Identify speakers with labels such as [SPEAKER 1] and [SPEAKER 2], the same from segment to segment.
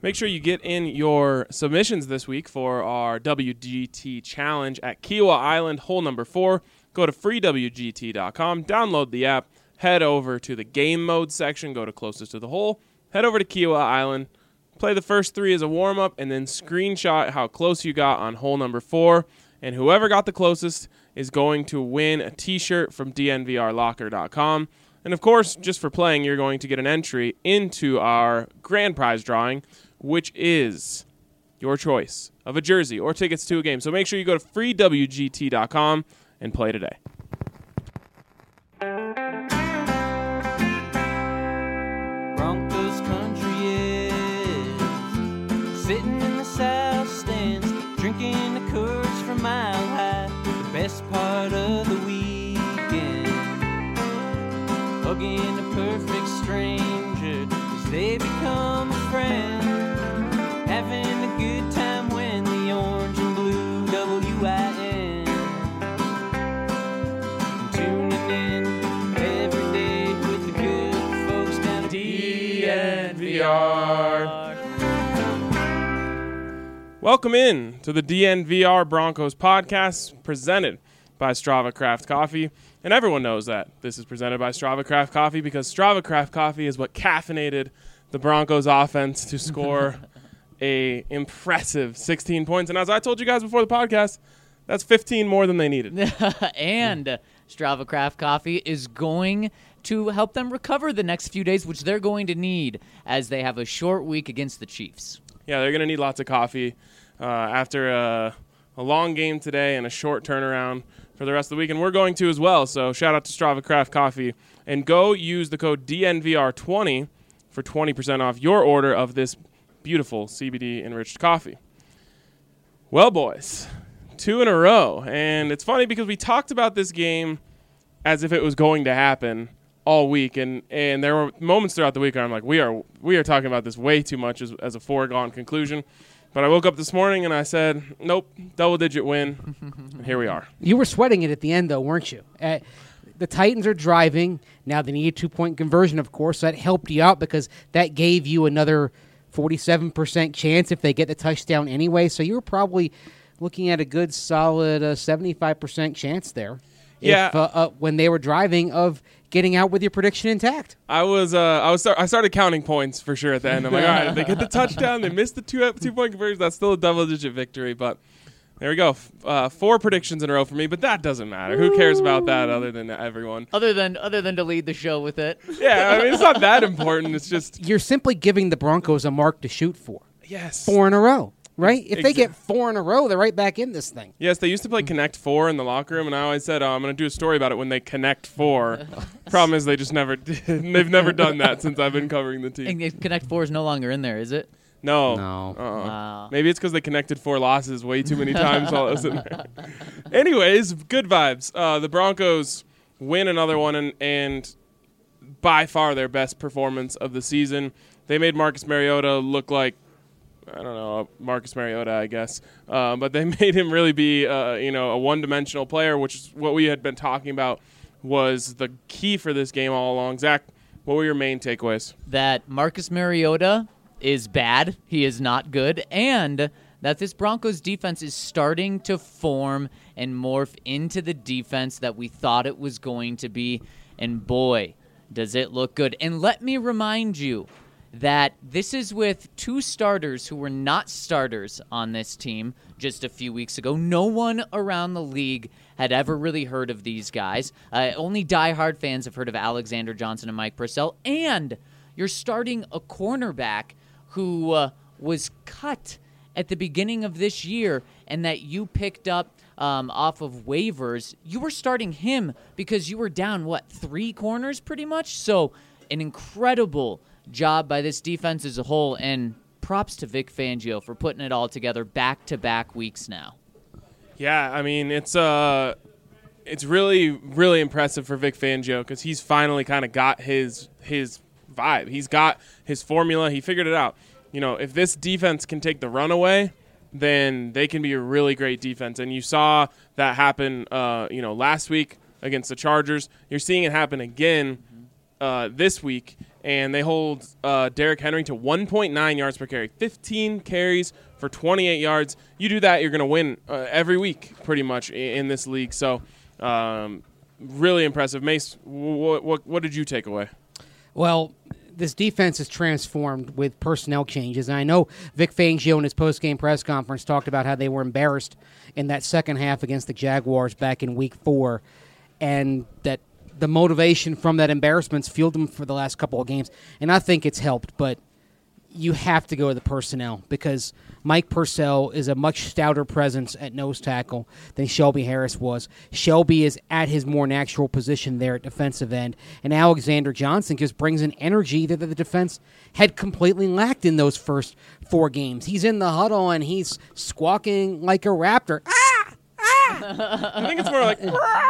[SPEAKER 1] Make sure you get in your submissions this week for our WGT challenge at Kiowa Island, hole number 4. Go to freewgt.com, download the app, head over to the game mode section, go to closest to the hole, head over to Kiowa Island, play the first 3 as a warm-up, and then screenshot how close you got on hole number 4. And whoever got the closest is going to win a t-shirt from dnvrlocker.com. And, of course, just for playing, you're going to get an entry into our grand prize drawing, which is your choice of a jersey or tickets to a game. So make sure you go to freewgt.com and play today.
[SPEAKER 2] Broncos country is sitting in the south stands, drinking the Coors from Mile High. The best part of the weekend, hugging a perfect stranger as they become a friend. Having a good time when the orange and blue WIN. Tuning in every day with the good folks down at DNVR.
[SPEAKER 1] Welcome in to the DNVR Broncos podcast presented by Strava Craft Coffee. And everyone knows that this is presented by Strava Craft Coffee because Strava Craft Coffee is what caffeinated the Broncos offense to score a impressive 16 points. And as I told you guys before the podcast, that's 15 more than they needed.
[SPEAKER 3] And Strava Craft Coffee is going to help them recover the next few days, which they're going to need as they have a short week against the Chiefs.
[SPEAKER 1] Yeah, they're going to need lots of coffee after a long game today and a short turnaround for the rest of the week. And we're going to as well. So shout out to Strava Craft Coffee. And go use the code DNVR20 for 20% off your order of this beautiful CBD-enriched coffee. Well, boys, 2 in a row. And it's funny because we talked about this game as if it was going to happen all week. And there were moments throughout the week where I'm like, we are talking about this way too much as a foregone conclusion. But I woke up this morning and I said, nope, double-digit win. And here we are.
[SPEAKER 4] You were sweating it at the end, though, weren't you? The Titans are driving. Now they need a 2-point conversion, of course. So that helped you out because that gave you another 47% chance if they get the touchdown anyway. So you were probably looking at a good, solid 75% chance there.
[SPEAKER 1] Yeah.
[SPEAKER 4] When they were driving of getting out with your prediction intact.
[SPEAKER 1] I started counting points for sure at the end. I'm like, all right, they get the touchdown, they missed the 2-point conversion. That's still a double-digit victory, but there we go. 4 predictions in a row for me, but that doesn't matter. Who cares about that other than everyone?
[SPEAKER 3] Other than to lead the show with it.
[SPEAKER 1] Yeah, I mean, it's not that important. It's just
[SPEAKER 4] you're simply giving the Broncos a mark to shoot for.
[SPEAKER 1] Yes.
[SPEAKER 4] 4 in a row. Right? If they get 4 in a row, they're right back in this thing.
[SPEAKER 1] Yes, they used to play Connect 4 in the locker room, and I always said, I'm going to do a story about it when they Connect 4. Problem is they just never did. They've never done that since I've been covering the team.
[SPEAKER 3] And Connect 4 is no longer in there, is it?
[SPEAKER 1] No.
[SPEAKER 3] Wow.
[SPEAKER 1] Maybe it's because they connected 4 losses way too many times while I was in there. Anyways, good vibes. The Broncos win another one, and by far their best performance of the season. They made Marcus Mariota look like, I don't know, Marcus Mariota, I guess. But they made him really be, a one-dimensional player, which is what we had been talking about was the key for this game all along. Zach, what were your main takeaways?
[SPEAKER 3] That Marcus Mariota is bad. He is not good. And that this Broncos defense is starting to form and morph into the defense that we thought it was going to be. And boy, does it look good. And let me remind you that this is with 2 starters who were not starters on this team just a few weeks ago. No one around the league had ever really heard of these guys. Only diehard fans have heard of Alexander Johnson and Mike Purcell. And you're starting a cornerback who was cut at the beginning of this year and that you picked up off of waivers. You were starting him because you were down, 3 corners pretty much? So an incredible job by this defense as a whole, and props to Vic Fangio for putting it all together back-to-back weeks now.
[SPEAKER 1] Yeah, I mean, it's really, really impressive for Vic Fangio because he's finally kind of got his vibe. He's got his formula. He figured it out. If this defense can take the run away, then they can be a really great defense. And you saw that happen, last week against the Chargers. You're seeing it happen again this week. and they hold Derrick Henry to 1.9 yards per carry, 15 carries for 28 yards. You do that, you're going to win every week pretty much in this league. So really impressive. Mace, what did you take away?
[SPEAKER 4] Well, this defense is transformed with personnel changes. And I know Vic Fangio in his post-game press conference talked about how they were embarrassed in that second half against the Jaguars back in Week 4, and that the motivation from that embarrassment's fueled them for the last couple of games. And I think it's helped, but you have to go to the personnel because Mike Purcell is a much stouter presence at nose tackle than Shelby Harris was. Shelby is at his more natural position there at defensive end, and Alexander Johnson just brings an energy that the defense had completely lacked in those first 4 games. He's in the huddle, and he's squawking like a raptor.
[SPEAKER 1] I think it's more like...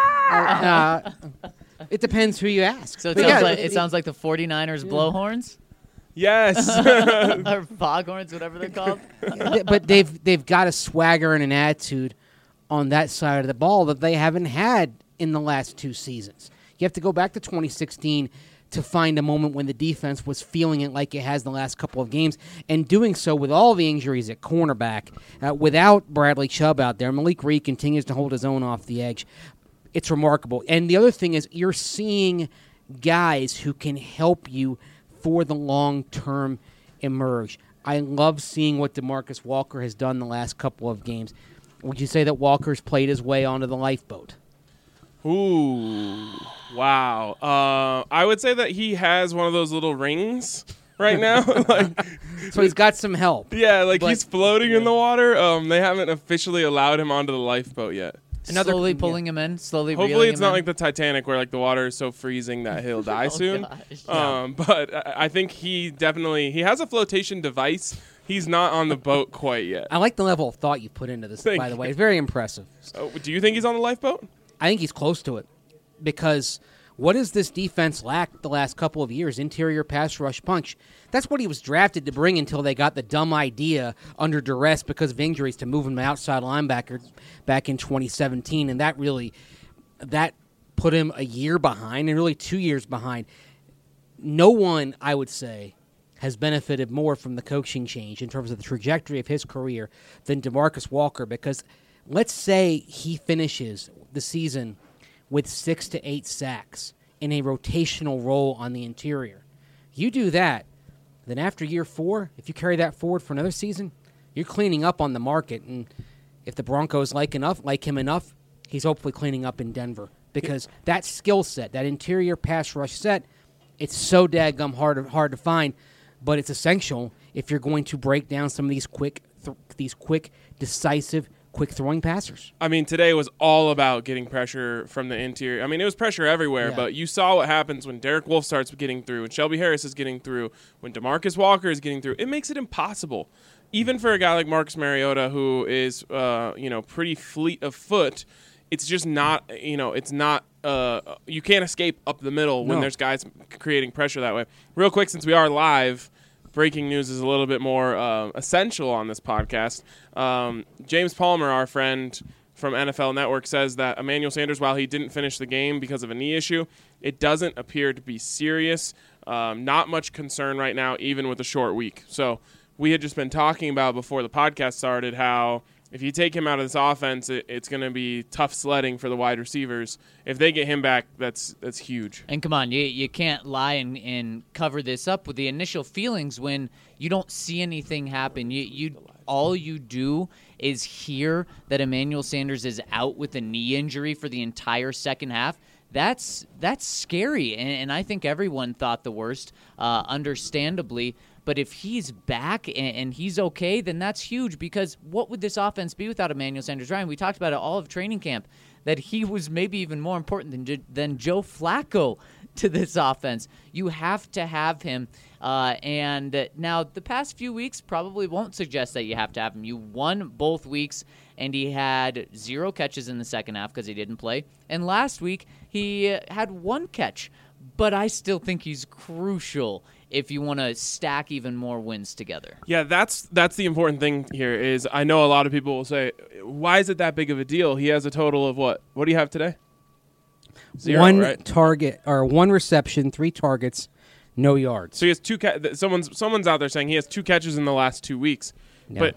[SPEAKER 4] It depends who you ask.
[SPEAKER 3] So
[SPEAKER 4] But
[SPEAKER 3] it sounds like the 49ers blowhorns?
[SPEAKER 1] Yes.
[SPEAKER 3] Or foghorns, whatever they're called.
[SPEAKER 4] But they've got a swagger and an attitude on that side of the ball that they haven't had in the last 2 seasons. You have to go back to 2016 to find a moment when the defense was feeling it like it has the last couple of games, and doing so with all the injuries at cornerback, without Bradley Chubb out there. Malik Reed continues to hold his own off the edge. It's remarkable. And the other thing is you're seeing guys who can help you for the long term emerge. I love seeing what DeMarcus Walker has done the last couple of games. Would you say that Walker's played his way onto the lifeboat?
[SPEAKER 1] Ooh, wow. I would say that he has one of those little rings right now.
[SPEAKER 4] So he's got some help.
[SPEAKER 1] Yeah,
[SPEAKER 4] But-
[SPEAKER 1] he's floating in the water. They haven't officially allowed him onto the lifeboat yet.
[SPEAKER 3] Slowly pulling him in, slowly
[SPEAKER 1] Hopefully
[SPEAKER 3] reeling
[SPEAKER 1] it's
[SPEAKER 3] him
[SPEAKER 1] not
[SPEAKER 3] in.
[SPEAKER 1] like the Titanic where the water is so freezing that he'll die soon.
[SPEAKER 3] Gosh.
[SPEAKER 1] But I think he has a flotation device. He's not on the boat quite yet.
[SPEAKER 4] I like the level of thought you put into this,
[SPEAKER 1] Thank
[SPEAKER 4] by the
[SPEAKER 1] you.
[SPEAKER 4] way. It's very impressive.
[SPEAKER 1] So, do you think he's on the lifeboat?
[SPEAKER 4] I think he's close to it because what does this defense lack the last couple of years? Interior pass rush punch. That's what he was drafted to bring until they got the dumb idea under duress because of injuries to move him to outside linebacker back in 2017, and that put him a year behind and really 2 years behind. No one, I would say, has benefited more from the coaching change in terms of the trajectory of his career than DeMarcus Walker, because let's say he finishes the season with 6 to 8 sacks in a rotational role on the interior. You do that, then after year 4, if you carry that forward for another season, you're cleaning up on the market. And if the Broncos like him enough, he's hopefully cleaning up in Denver. Because that skill set, that interior pass rush set, it's so daggum hard to find, but it's essential if you're going to break down some of these quick, decisive, quick-throwing passers.
[SPEAKER 1] I mean, today was all about getting pressure from the interior. I mean, it was pressure everywhere,
[SPEAKER 4] Yeah.
[SPEAKER 1] but you saw what happens when Derek Wolfe starts getting through, when Shelby Harris is getting through, when DeMarcus Walker is getting through. It makes it impossible, even for a guy like Marcus Mariota, who is, pretty fleet of foot. It's just not, it's not. You can't escape up the middle when
[SPEAKER 4] No.
[SPEAKER 1] there's guys creating pressure that way. Real quick, since we are live, breaking news is a little bit more essential on this podcast. James Palmer, our friend from NFL Network, says that Emmanuel Sanders, while he didn't finish the game because of a knee issue, it doesn't appear to be serious. Not much concern right now, even with a short week. So we had just been talking about before the podcast started how if you take him out of this offense, it's going to be tough sledding for the wide receivers. If they get him back, that's huge.
[SPEAKER 3] And come on, you can't lie and cover this up with the initial feelings when you don't see anything happen. All you do is hear that Emmanuel Sanders is out with a knee injury for the entire second half. That's scary, and I think everyone thought the worst, understandably. But if he's back and he's okay, then that's huge, because what would this offense be without Emmanuel Sanders? Ryan, we talked about it all of training camp, that he was maybe even more important than Joe Flacco to this offense. You have to have him. And now the past few weeks probably won't suggest that you have to have him. You won both weeks, and he had 0 catches in the second half because he didn't play. And last week he had 1 catch. But I still think he's crucial if you want to stack even more wins together.
[SPEAKER 1] Yeah, that's the important thing here is I know a lot of people will say, why is it that big of a deal? He has a total of what? What do you have today? 0,
[SPEAKER 4] one
[SPEAKER 1] right?
[SPEAKER 4] target or 1 reception, 3 targets, no yards.
[SPEAKER 1] So he has someone's out there saying he has 2 catches in the last 2 weeks.
[SPEAKER 4] Yeah.
[SPEAKER 1] But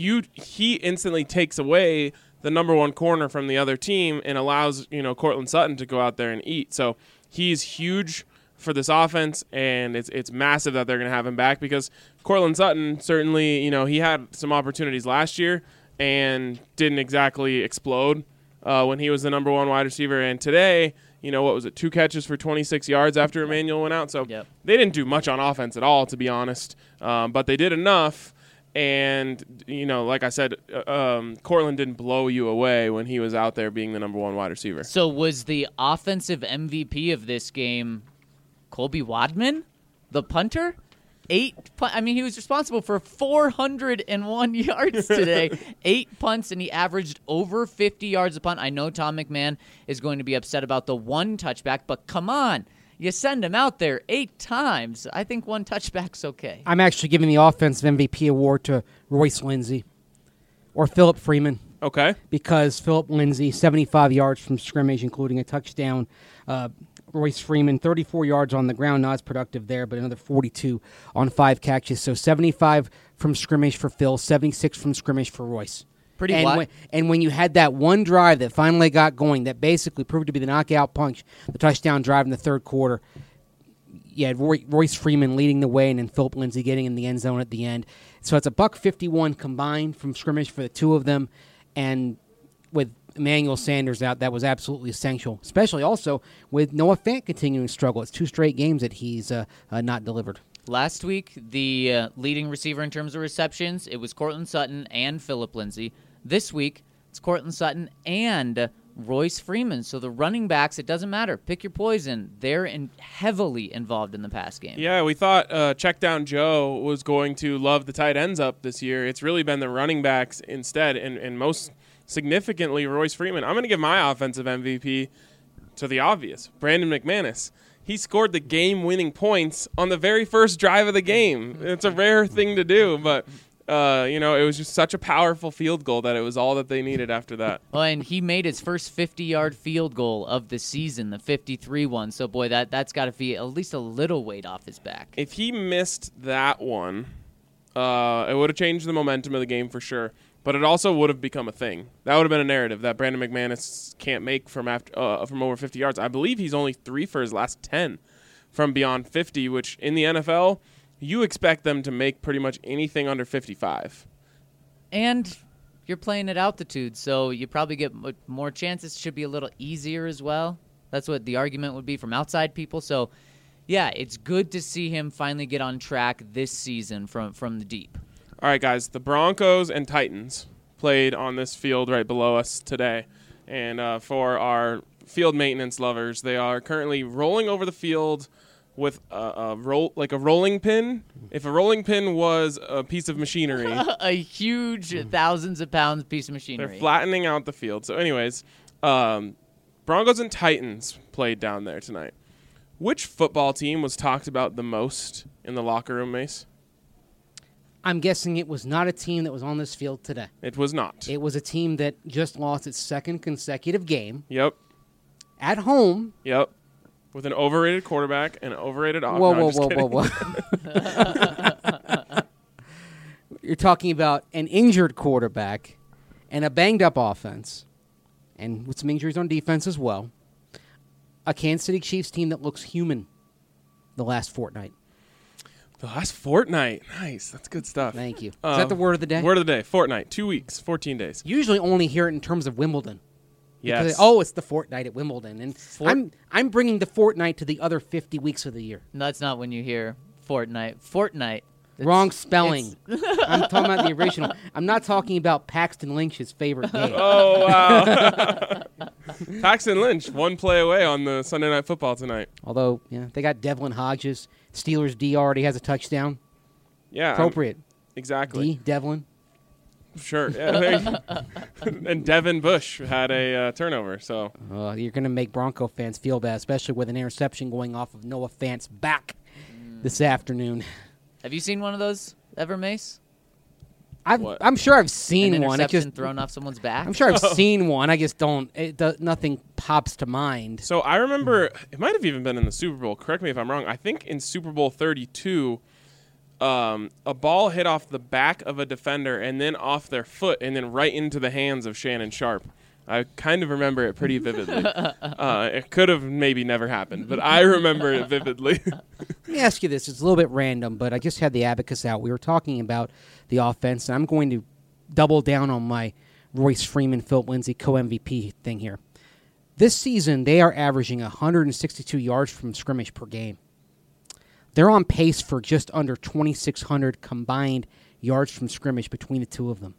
[SPEAKER 1] he instantly takes away the number 1 corner from the other team and allows, Cortland Sutton to go out there and eat. So he's huge for this offense, and it's massive that they're going to have him back because Cortland Sutton certainly, he had some opportunities last year and didn't exactly explode when he was the number 1 wide receiver. And today, what was it, 2 catches for 26 yards after Emmanuel went out. So They didn't do much on offense at all, to be honest, but they did enough. And, like I said, Cortland didn't blow you away when he was out there being the number 1 wide receiver.
[SPEAKER 3] So was the offensive MVP of this game Colby Wadman, the punter? He was responsible for 401 yards today, 8 punts, and he averaged over 50 yards a punt. I know Tom McMahon is going to be upset about the 1 touchback, but come on. You send him out there 8 times. I think 1 touchback's okay.
[SPEAKER 4] I'm actually giving the offensive MVP award to Royce Lindsey or Philip Freeman.
[SPEAKER 1] Okay.
[SPEAKER 4] Because Philip Lindsey, 75 yards from scrimmage, including a touchdown. Royce Freeman, 34 yards on the ground, not as productive there, but another 42 on 5 catches. So 75 from scrimmage for Phil, 76 from scrimmage for Royce.
[SPEAKER 3] Pretty wide.
[SPEAKER 4] And when you had that one drive that finally got going, that basically proved to be the knockout punch, the touchdown drive in the third quarter, you had Royce Freeman leading the way and then Philip Lindsey getting in the end zone at the end. So it's a $151 combined from scrimmage for the 2 of them. And with Emmanuel Sanders out, that was absolutely essential, especially also with Noah Fant continuing to struggle. It's 2 straight games that he's not delivered.
[SPEAKER 3] Last week, the leading receiver in terms of receptions, it was Cortland Sutton and Philip Lindsey. This week, it's Cortland Sutton and Royce Freeman. So the running backs, it doesn't matter. Pick your poison. They're heavily involved in the pass game.
[SPEAKER 1] Yeah, we thought Check Down Joe was going to love the tight ends up this year. It's really been the running backs instead, and most significantly, Royce Freeman. I'm going to give my offensive MVP to the obvious, Brandon McManus. He scored the game-winning points on the very first drive of the game. It's a rare thing to do, but it was just such a powerful field goal that it was all that they needed after that.
[SPEAKER 3] Well, and he made his first 50-yard field goal of the season, the 53 one. So, boy, that's got to be at least a little weight off his back.
[SPEAKER 1] If he missed that one, it would have changed the momentum of the game for sure. But it also would have become a thing. That would have been a narrative that Brandon McManus can't make from over 50 yards. I believe he's only 3 for his last 10 from beyond 50, which in the NFL, you expect them to make pretty much anything under 55.
[SPEAKER 3] And you're playing at altitude, so you probably get more chances. Should be a little easier as well. That's what the argument would be from outside people. So, yeah, it's good to see him finally get on track this season from the deep.
[SPEAKER 1] All right, guys, the Broncos and Titans played on this field right below us today. And for our field maintenance lovers, they are currently rolling over the field with a rolling pin. If a rolling pin was a piece of machinery.
[SPEAKER 3] A huge, thousands of pounds piece of machinery.
[SPEAKER 1] They're flattening out the field. So anyways, Broncos and Titans played down there tonight. Which football team was talked about the most in the locker room, Mace?
[SPEAKER 4] I'm guessing it was not a team that was on this field today.
[SPEAKER 1] It was not.
[SPEAKER 4] It was a team that just lost its 2nd consecutive game.
[SPEAKER 1] Yep.
[SPEAKER 4] At home.
[SPEAKER 1] Yep. With an overrated quarterback and an overrated offense.
[SPEAKER 4] Whoa. You're talking about an injured quarterback and a banged-up offense, and with some injuries on defense as well. A Kansas City Chiefs team that looks human the last fortnight.
[SPEAKER 1] The last fortnight. Nice. That's good stuff.
[SPEAKER 4] Thank you. Is that the word of the day?
[SPEAKER 1] Word of the day. Fortnight. 2 weeks. 14 days.
[SPEAKER 4] Usually only hear it in terms of Wimbledon.
[SPEAKER 1] Yes.
[SPEAKER 4] Because, it's the fortnight at Wimbledon. And I'm bringing the fortnight to the other 50 weeks of the year.
[SPEAKER 3] That's not when you hear Fortnite. Fortnite.
[SPEAKER 4] Wrong spelling. I'm talking about the original. I'm not talking about Paxton Lynch's favorite game.
[SPEAKER 1] Oh, wow. Paxton Lynch, 1 play away on the Sunday Night Football tonight.
[SPEAKER 4] Although, they got Devlin Hodges. Steelers D already has a touchdown.
[SPEAKER 1] Yeah.
[SPEAKER 4] Appropriate.
[SPEAKER 1] Exactly.
[SPEAKER 4] D, Devlin.
[SPEAKER 1] Sure. Yeah, and Devin Bush had a turnover. So
[SPEAKER 4] you're going to make Bronco fans feel bad, especially with an interception going off of Noah Fant's back this afternoon.
[SPEAKER 3] Have you seen one of those ever, Mace?
[SPEAKER 1] What?
[SPEAKER 4] I'm sure I've
[SPEAKER 3] An
[SPEAKER 4] seen one. It
[SPEAKER 3] interception
[SPEAKER 4] just,
[SPEAKER 3] thrown off someone's back.
[SPEAKER 4] I'm sure I've seen one. I just don't. Nothing pops to mind.
[SPEAKER 1] So I remember it might have even been in the Super Bowl. Correct me if I'm wrong. I think in Super Bowl 32, a ball hit off the back of a defender and then off their foot and then right into the hands of Shannon Sharp. I kind of remember it pretty vividly. It could have maybe never happened, but I remember it vividly.
[SPEAKER 4] Let me ask you this. It's a little bit random, but I just had the abacus out. We were talking about the offense, and I'm going to double down on my Royce Freeman, Philip Lindsay co-MVP thing here. This season, they are averaging 162 yards from scrimmage per game. They're on pace for just under 2,600 combined yards from scrimmage between the two of them.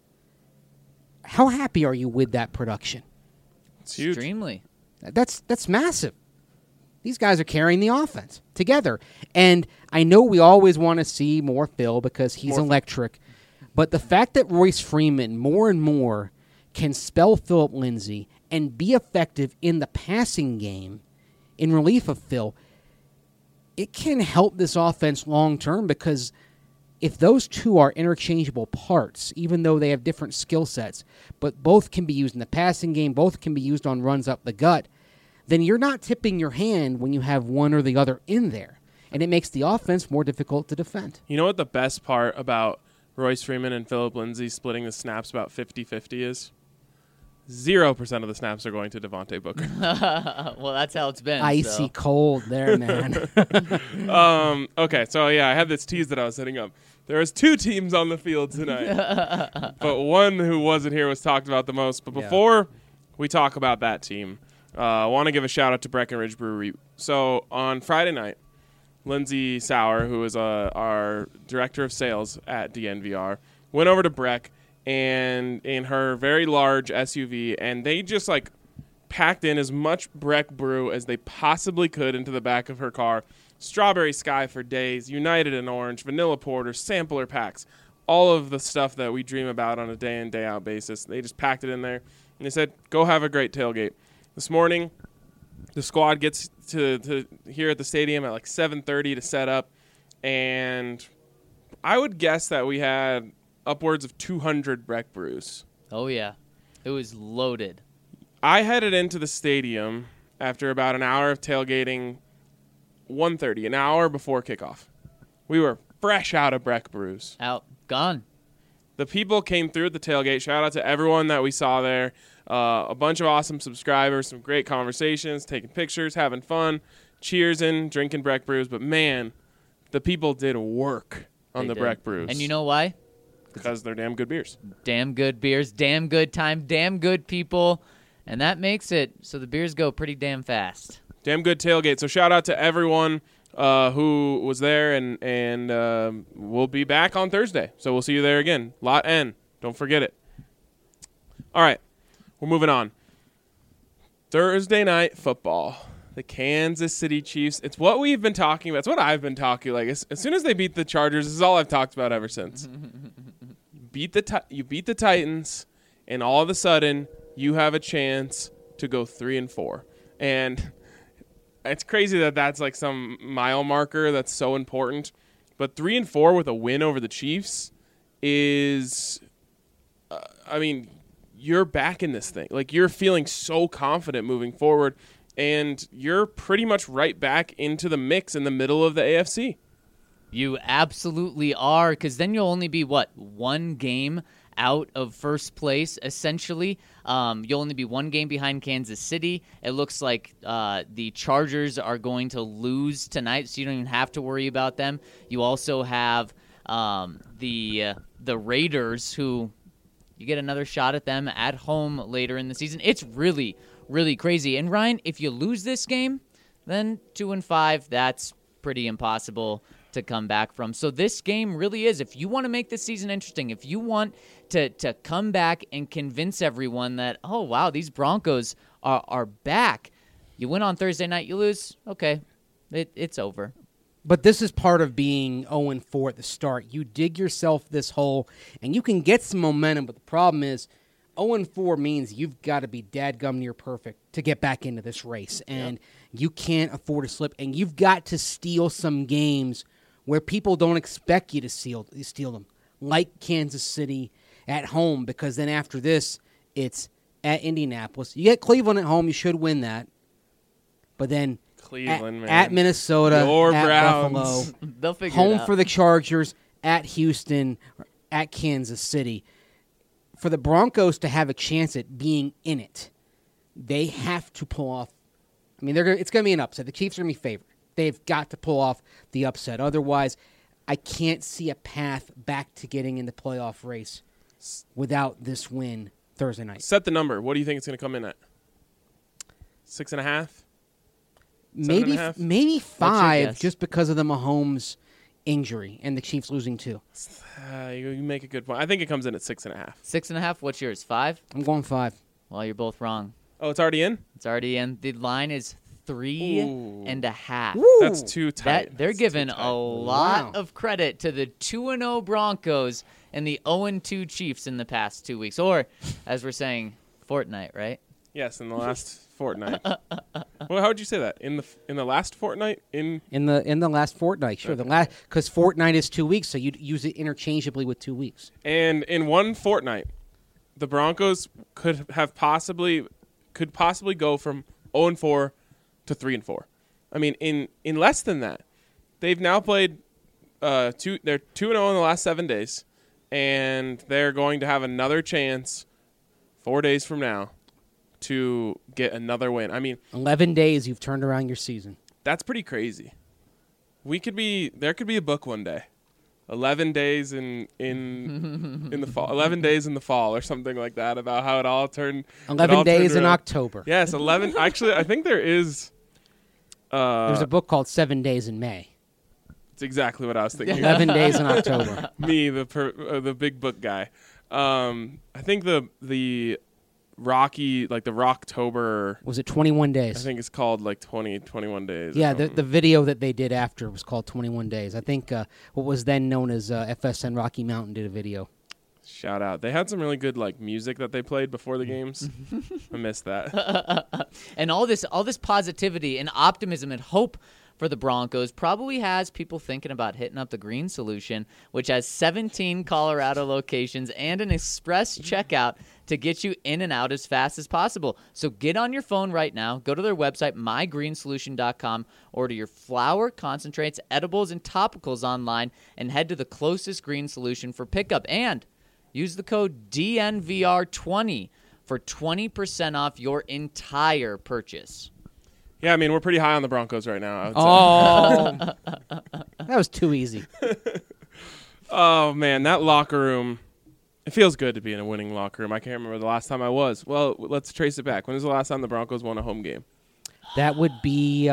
[SPEAKER 4] How happy are you with that production?
[SPEAKER 1] It's huge.
[SPEAKER 3] Extremely.
[SPEAKER 4] That's massive. These guys are carrying the offense together. And I know we always want to see more Phil because he's electric. But the fact that Royce Freeman more and more can spell Philip Lindsay and be effective in the passing game in relief of Phil, it can help this offense long term because if those two are interchangeable parts, even though they have different skill sets, but both can be used in the passing game, both can be used on runs up the gut, then you're not tipping your hand when you have one or the other in there. And it makes the offense more difficult to defend.
[SPEAKER 1] You know what the best part about Royce Freeman and Philip Lindsay splitting the snaps about 50-50 is? 0% of the snaps are going to Devontae Booker.
[SPEAKER 3] Well, that's how it's been.
[SPEAKER 4] Icy
[SPEAKER 3] so.
[SPEAKER 4] cold there, man.
[SPEAKER 1] Okay, so yeah, I had this tease that I was setting up. There was two teams on the field tonight, but one who wasn't here was talked about the most. But before we talk about that team, I want to give a shout out to Breckenridge Brewery. So on Friday night, Lindsay Sauer, who is our director of sales at DNVR, went over to Breck and in her very large SUV, and they just like packed in as much Breck brew as they possibly could into the back of her car. Strawberry Sky for days, United and Orange, Vanilla Porter, sampler packs, all of the stuff that we dream about on a day in, day out basis. They just packed it in there, and they said, go have a great tailgate. This morning, the squad gets to here at the stadium at like 7:30 to set up, and I would guess that we had upwards of 200 Breck brews.
[SPEAKER 3] Oh, yeah. It was loaded.
[SPEAKER 1] I headed into the stadium after about an hour of tailgating, 1:30, an hour before kickoff. We were fresh out of Breck brews.
[SPEAKER 3] Out. Gone.
[SPEAKER 1] The people came through at the tailgate. Shout out to everyone that we saw there. A bunch of awesome subscribers, some great conversations, taking pictures, having fun, cheersing, drinking Breck brews. But, man, the people did work on
[SPEAKER 3] They
[SPEAKER 1] the
[SPEAKER 3] did.
[SPEAKER 1] Breck brews.
[SPEAKER 3] And you know why?
[SPEAKER 1] Because they're damn good beers.
[SPEAKER 3] Damn good beers, damn good time, damn good people. And that makes it so the beers go pretty damn fast.
[SPEAKER 1] Damn good tailgate. So shout out to everyone who was there, and we'll be back on Thursday. So we'll see you there again. Lot N. Don't forget it. All right. We're moving on. Thursday night football. The Kansas City Chiefs. It's what we've been talking about. It's what I've been talking like. As soon as they beat the Chargers, this is all I've talked about ever since. You beat the Titans, and all of a sudden you have a chance to go 3-4. And it's crazy that that's like some mile marker that's so important. But 3-4 with a win over the Chiefs is, you're back in this thing. Like, you're feeling so confident moving forward, and you're pretty much right back into the mix in the middle of the AFC.
[SPEAKER 3] You absolutely are, because then you'll only be, one game out of first place, essentially. You'll only be one game behind Kansas City. It looks like the Chargers are going to lose tonight, so you don't even have to worry about them. You also have the Raiders, who you get another shot at them at home later in the season. It's really, really crazy. And, Ryan, if you lose this game, then 2-5, that's pretty impossible to come back from. So this game really is, if you want to make this season interesting, if you want to come back and convince everyone that, oh, wow, these Broncos are back. You win on Thursday night, you lose, okay, it's over.
[SPEAKER 4] But this is part of being 0-4 at the start. You dig yourself this hole, and you can get some momentum, but the problem is 0-4 means you've got to be dadgum near perfect to get back into this race, and you can't afford to slip, and you've got to steal some games where people don't expect you to steal them. like Kansas City at home, because then after this, it's at Indianapolis. You get Cleveland at home, you should win that. But then
[SPEAKER 1] Cleveland, man.
[SPEAKER 4] at Minnesota,
[SPEAKER 1] Your
[SPEAKER 4] at
[SPEAKER 1] Browns.
[SPEAKER 4] Buffalo,
[SPEAKER 3] They'll figure it
[SPEAKER 4] home
[SPEAKER 3] out.
[SPEAKER 4] for the Chargers, at Houston, at Kansas City. For the Broncos to have a chance at being in it, they have to pull off. I mean, it's going to be an upset. The Chiefs are going to be favored. They've got to pull off the upset. Otherwise, I can't see a path back to getting in the playoff race without this win Thursday night.
[SPEAKER 1] Set the number. What do you think it's going to come in at? 6.5?
[SPEAKER 4] Maybe
[SPEAKER 1] 7.5?
[SPEAKER 4] maybe 5,
[SPEAKER 3] guess?
[SPEAKER 4] just because of the Mahomes injury and the Chiefs losing 2.
[SPEAKER 1] You make a good point. I think it comes in at 6.5.
[SPEAKER 3] 6.5. What's yours? 5?
[SPEAKER 4] I'm going 5.
[SPEAKER 3] Well, you're both wrong.
[SPEAKER 1] Oh, it's already in?
[SPEAKER 3] It's already in. The line is 3.5.
[SPEAKER 1] That's too tight.
[SPEAKER 3] They're
[SPEAKER 1] That's
[SPEAKER 3] giving
[SPEAKER 1] too
[SPEAKER 3] a
[SPEAKER 1] tight.
[SPEAKER 3] lot
[SPEAKER 4] Wow.
[SPEAKER 3] of credit to the 2-0 Broncos and the 0-2 Chiefs in the past 2 weeks. Or, as we're saying, fortnight, right?
[SPEAKER 1] Yes, in the last fortnight. Well, how would you say that? In the last fortnight?
[SPEAKER 4] In the last fortnight, sure. The last, because fortnight is 2 weeks, so you'd use it interchangeably with 2 weeks.
[SPEAKER 1] And in one fortnight, the Broncos could possibly go from 0-4 to 3-4. I mean, in less than that, they've now played they're 2-0 in the last 7 days, and they're going to have another chance 4 days from now to get another win. I mean,
[SPEAKER 4] 11 days, you've turned around your season.
[SPEAKER 1] that's pretty crazy. There could be a book one day. 11 days in the fall. 11 days in the fall or something like that, about how it all turned.
[SPEAKER 4] 11 days in October.
[SPEAKER 1] Yes, 11. Actually, I think there is.
[SPEAKER 4] There's a book called 7 Days in May.
[SPEAKER 1] It's exactly what I was thinking.
[SPEAKER 4] 11 days in October.
[SPEAKER 1] Me, the big book guy. I think the Rocky, like the Rocktober,
[SPEAKER 4] Was it 21
[SPEAKER 1] I
[SPEAKER 4] days?
[SPEAKER 1] think it's called like 21 days. or
[SPEAKER 4] Yeah,
[SPEAKER 1] something.
[SPEAKER 4] the video that they did after was called 21 Days. I think what was then known as FSN Rocky Mountain did a video.
[SPEAKER 1] Shout out. They had some really good like music that they played before the games. I missed that.
[SPEAKER 3] And all this positivity and optimism and hope for the Broncos probably has people thinking about hitting up the Green Solution, which has 17 Colorado locations and an express checkout to get you in and out as fast as possible. So get on your phone right now, go to their website, mygreensolution.com, order your flour, concentrates, edibles, and topicals online, and head to the closest Green Solution for pickup. And use the code DNVR20 for 20% off your entire purchase.
[SPEAKER 1] Yeah, I mean, we're pretty high on the Broncos right now, I would say.
[SPEAKER 4] Oh, that was too easy.
[SPEAKER 1] Oh, man, that locker room. It feels good to be in a winning locker room. I can't remember the last time I was. Well, let's trace it back. When was the last time the Broncos won a home game?
[SPEAKER 4] That would be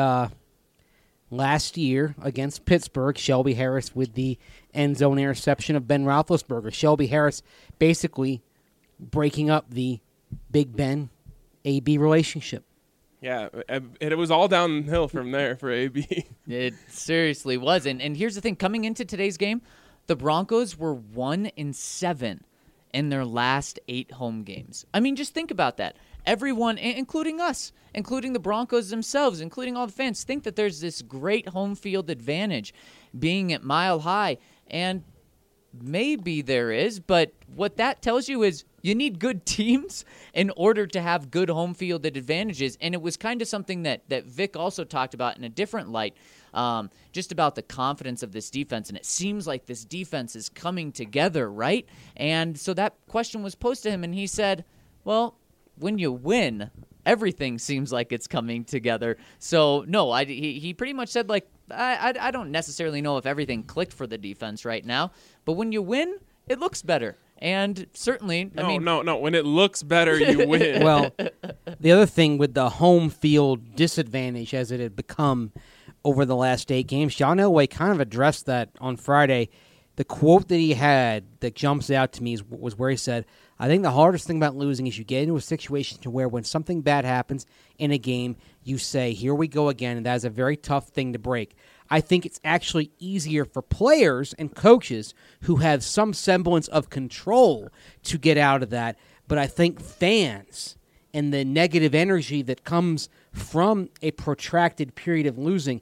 [SPEAKER 4] last year against Pittsburgh. Shelby Harris with the end zone interception of Ben Roethlisberger. Shelby Harris basically breaking up the Big Ben AB relationship.
[SPEAKER 1] Yeah, it was all downhill from there for AB.
[SPEAKER 3] It seriously was. And here's the thing. Coming into today's game, the Broncos were 1-7 in their last 8 home games. I mean, just think about that. Everyone, including us, including the Broncos themselves, including all the fans, think that there's this great home field advantage being at Mile High. And maybe there is, but what that tells you is you need good teams in order to have good home field advantages. And it was kind of something that Vic also talked about in a different light, just about the confidence of this defense. And it seems like this defense is coming together, right? And so that question was posed to him, and he said, well, when you win, everything seems like it's coming together. So, no, he pretty much said, like, I don't necessarily know if everything clicked for the defense right now, but when you win, it looks better. And certainly,
[SPEAKER 1] No. When it looks better, you win.
[SPEAKER 4] Well, the other thing with the home field disadvantage as it had become over the last 8 games, John Elway kind of addressed that on Friday. The quote that he had that jumps out to me was where he said, I think the hardest thing about losing is you get into a situation to where when something bad happens in a game, you say, here we go again, and that is a very tough thing to break. I think it's actually easier for players and coaches who have some semblance of control to get out of that, but I think fans and the negative energy that comes from a protracted period of losing,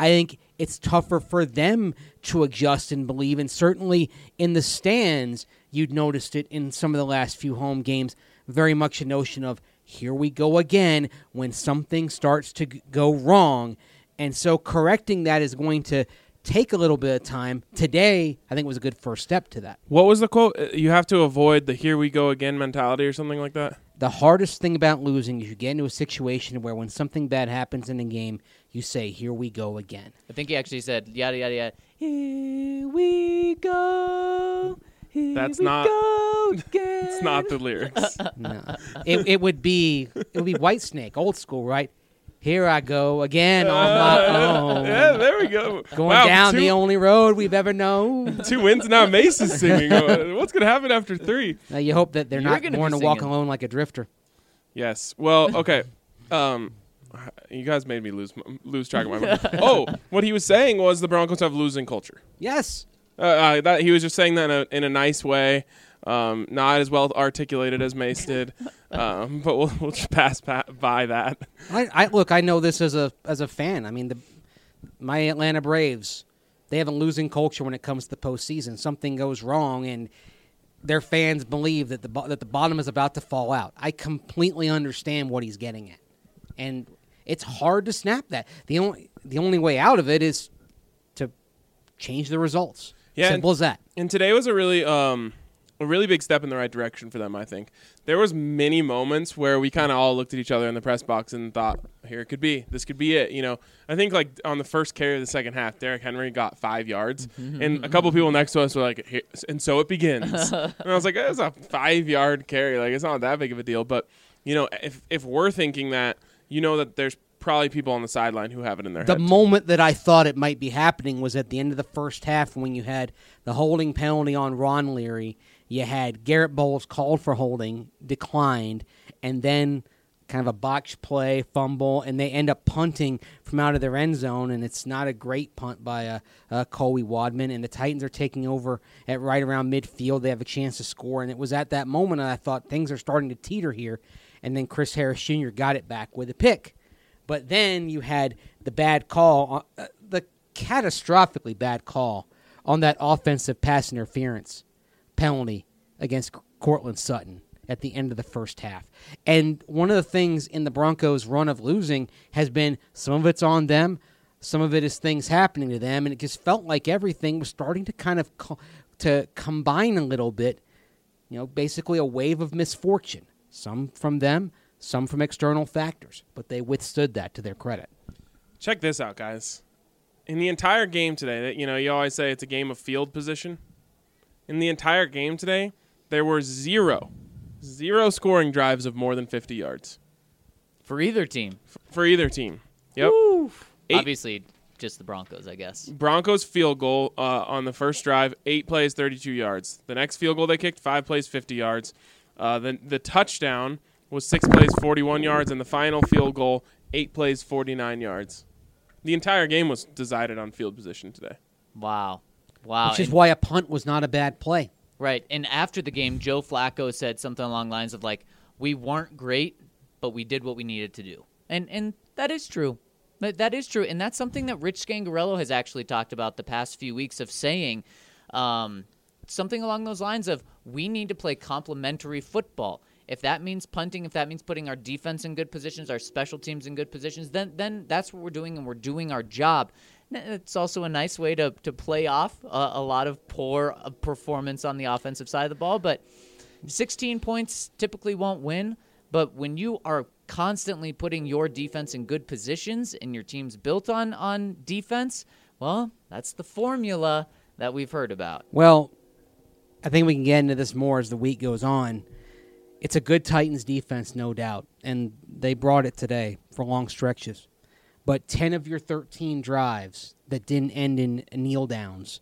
[SPEAKER 4] I think it's tougher for them to adjust and believe. And certainly in the stands, you'd noticed it in some of the last few home games, very much a notion of here we go again when something starts to go wrong. And so correcting that is going to take a little bit of time. Today, I think was a good first step to that.
[SPEAKER 1] What was the quote? You have to avoid the here we go again mentality or something like that?
[SPEAKER 4] The hardest thing about losing is you get into a situation where when something bad happens in a game, you say, here we go again.
[SPEAKER 3] I think he actually said, yada, yada, yada, here we go.
[SPEAKER 1] That's
[SPEAKER 3] we
[SPEAKER 1] not.
[SPEAKER 3] go again.
[SPEAKER 1] It's not the lyrics.
[SPEAKER 4] No. It would be Whitesnake, old school, right? Here I go again on my own.
[SPEAKER 1] Yeah, there we go.
[SPEAKER 4] Going down the only road we've ever known.
[SPEAKER 1] 2 wins now. Mace is singing. What's going to happen after 3?
[SPEAKER 4] Now you hope that they're
[SPEAKER 3] You're
[SPEAKER 4] not
[SPEAKER 3] gonna
[SPEAKER 4] born
[SPEAKER 3] be
[SPEAKER 4] to walk
[SPEAKER 3] singing.
[SPEAKER 4] alone like a drifter.
[SPEAKER 1] Yes. Well, okay. You guys made me lose track of my mind. Oh, what he was saying was the Broncos have losing culture.
[SPEAKER 4] Yes.
[SPEAKER 1] That he was just saying that in a nice way, not as well articulated as Mace did, but we'll just pass by that.
[SPEAKER 4] I know this as a fan. I mean, my Atlanta Braves, they have a losing culture when it comes to the postseason. Something goes wrong, and their fans believe that the bottom is about to fall out. I completely understand what he's getting at, and it's hard to snap that. The only way out of it is to change the results.
[SPEAKER 1] Yeah,
[SPEAKER 4] Simple as that.
[SPEAKER 1] And today was a really big step in the right direction for them, I think. There was many moments where we kind of all looked at each other in the press box and thought, here it could be. This could be it. You know, I think like on the first carry of the second half, Derrick Henry got 5 yards. And a couple people next to us were like, here, and so it begins. And I was like, it's a 5-yard carry. Like, it's not that big of a deal. But, you know, if we're thinking that, you know that there's probably people on the sideline who have it in their head.
[SPEAKER 4] The moment that I thought it might be happening was at the end of the first half when you had the holding penalty on Ron Leary. You had Garrett Bowles called for holding, declined, and then kind of a botched play, fumble, and they end up punting from out of their end zone, and it's not a great punt by Colby Wadman, and the Titans are taking over at right around midfield. They have a chance to score, and it was at that moment that I thought things are starting to teeter here, and then Chris Harris Jr. got it back with a pick. But then you had the bad call, the catastrophically bad call on that offensive pass interference penalty against Cortland Sutton at the end of the first half. And one of the things in the Broncos' run of losing has been some of it's on them, some of it is things happening to them, and it just felt like everything was starting to kind of to combine a little bit, you know, basically a wave of misfortune, some from them, some from external factors, but they withstood that to their credit.
[SPEAKER 1] Check this out, guys. In the entire game today, you know, you always say it's a game of field position. In the entire game today, there were zero scoring drives of more than 50 yards.
[SPEAKER 3] For either team.
[SPEAKER 1] For either team. Yep.
[SPEAKER 3] Obviously, just the Broncos, I guess.
[SPEAKER 1] Broncos field goal on the first drive, 8 plays, 32 yards. The next field goal they kicked, 5 plays, 50 yards. The touchdown was 6 plays, 41 yards, and the final field goal, 8 plays, 49 yards. The entire game was decided on field position today.
[SPEAKER 3] Wow.
[SPEAKER 4] Which is why a punt was not a bad play.
[SPEAKER 3] Right. And after the game, Joe Flacco said something along the lines of like, we weren't great, but we did what we needed to do. And that is true. That is true. And that's something that Rich Scangarello has actually talked about the past few weeks of saying something along those lines of we need to play complementary football. If that means punting, if that means putting our defense in good positions, our special teams in good positions, then that's what we're doing, and we're doing our job. It's also a nice way to play off a lot of poor performance on the offensive side of the ball. But 16 points typically won't win. But when you are constantly putting your defense in good positions and your team's built on defense, well, that's the formula that we've heard about.
[SPEAKER 4] Well, I think we can get into this more as the week goes on. It's a good Titans defense, no doubt, and they brought it today for long stretches. But 10 of your 13 drives that didn't end in kneel downs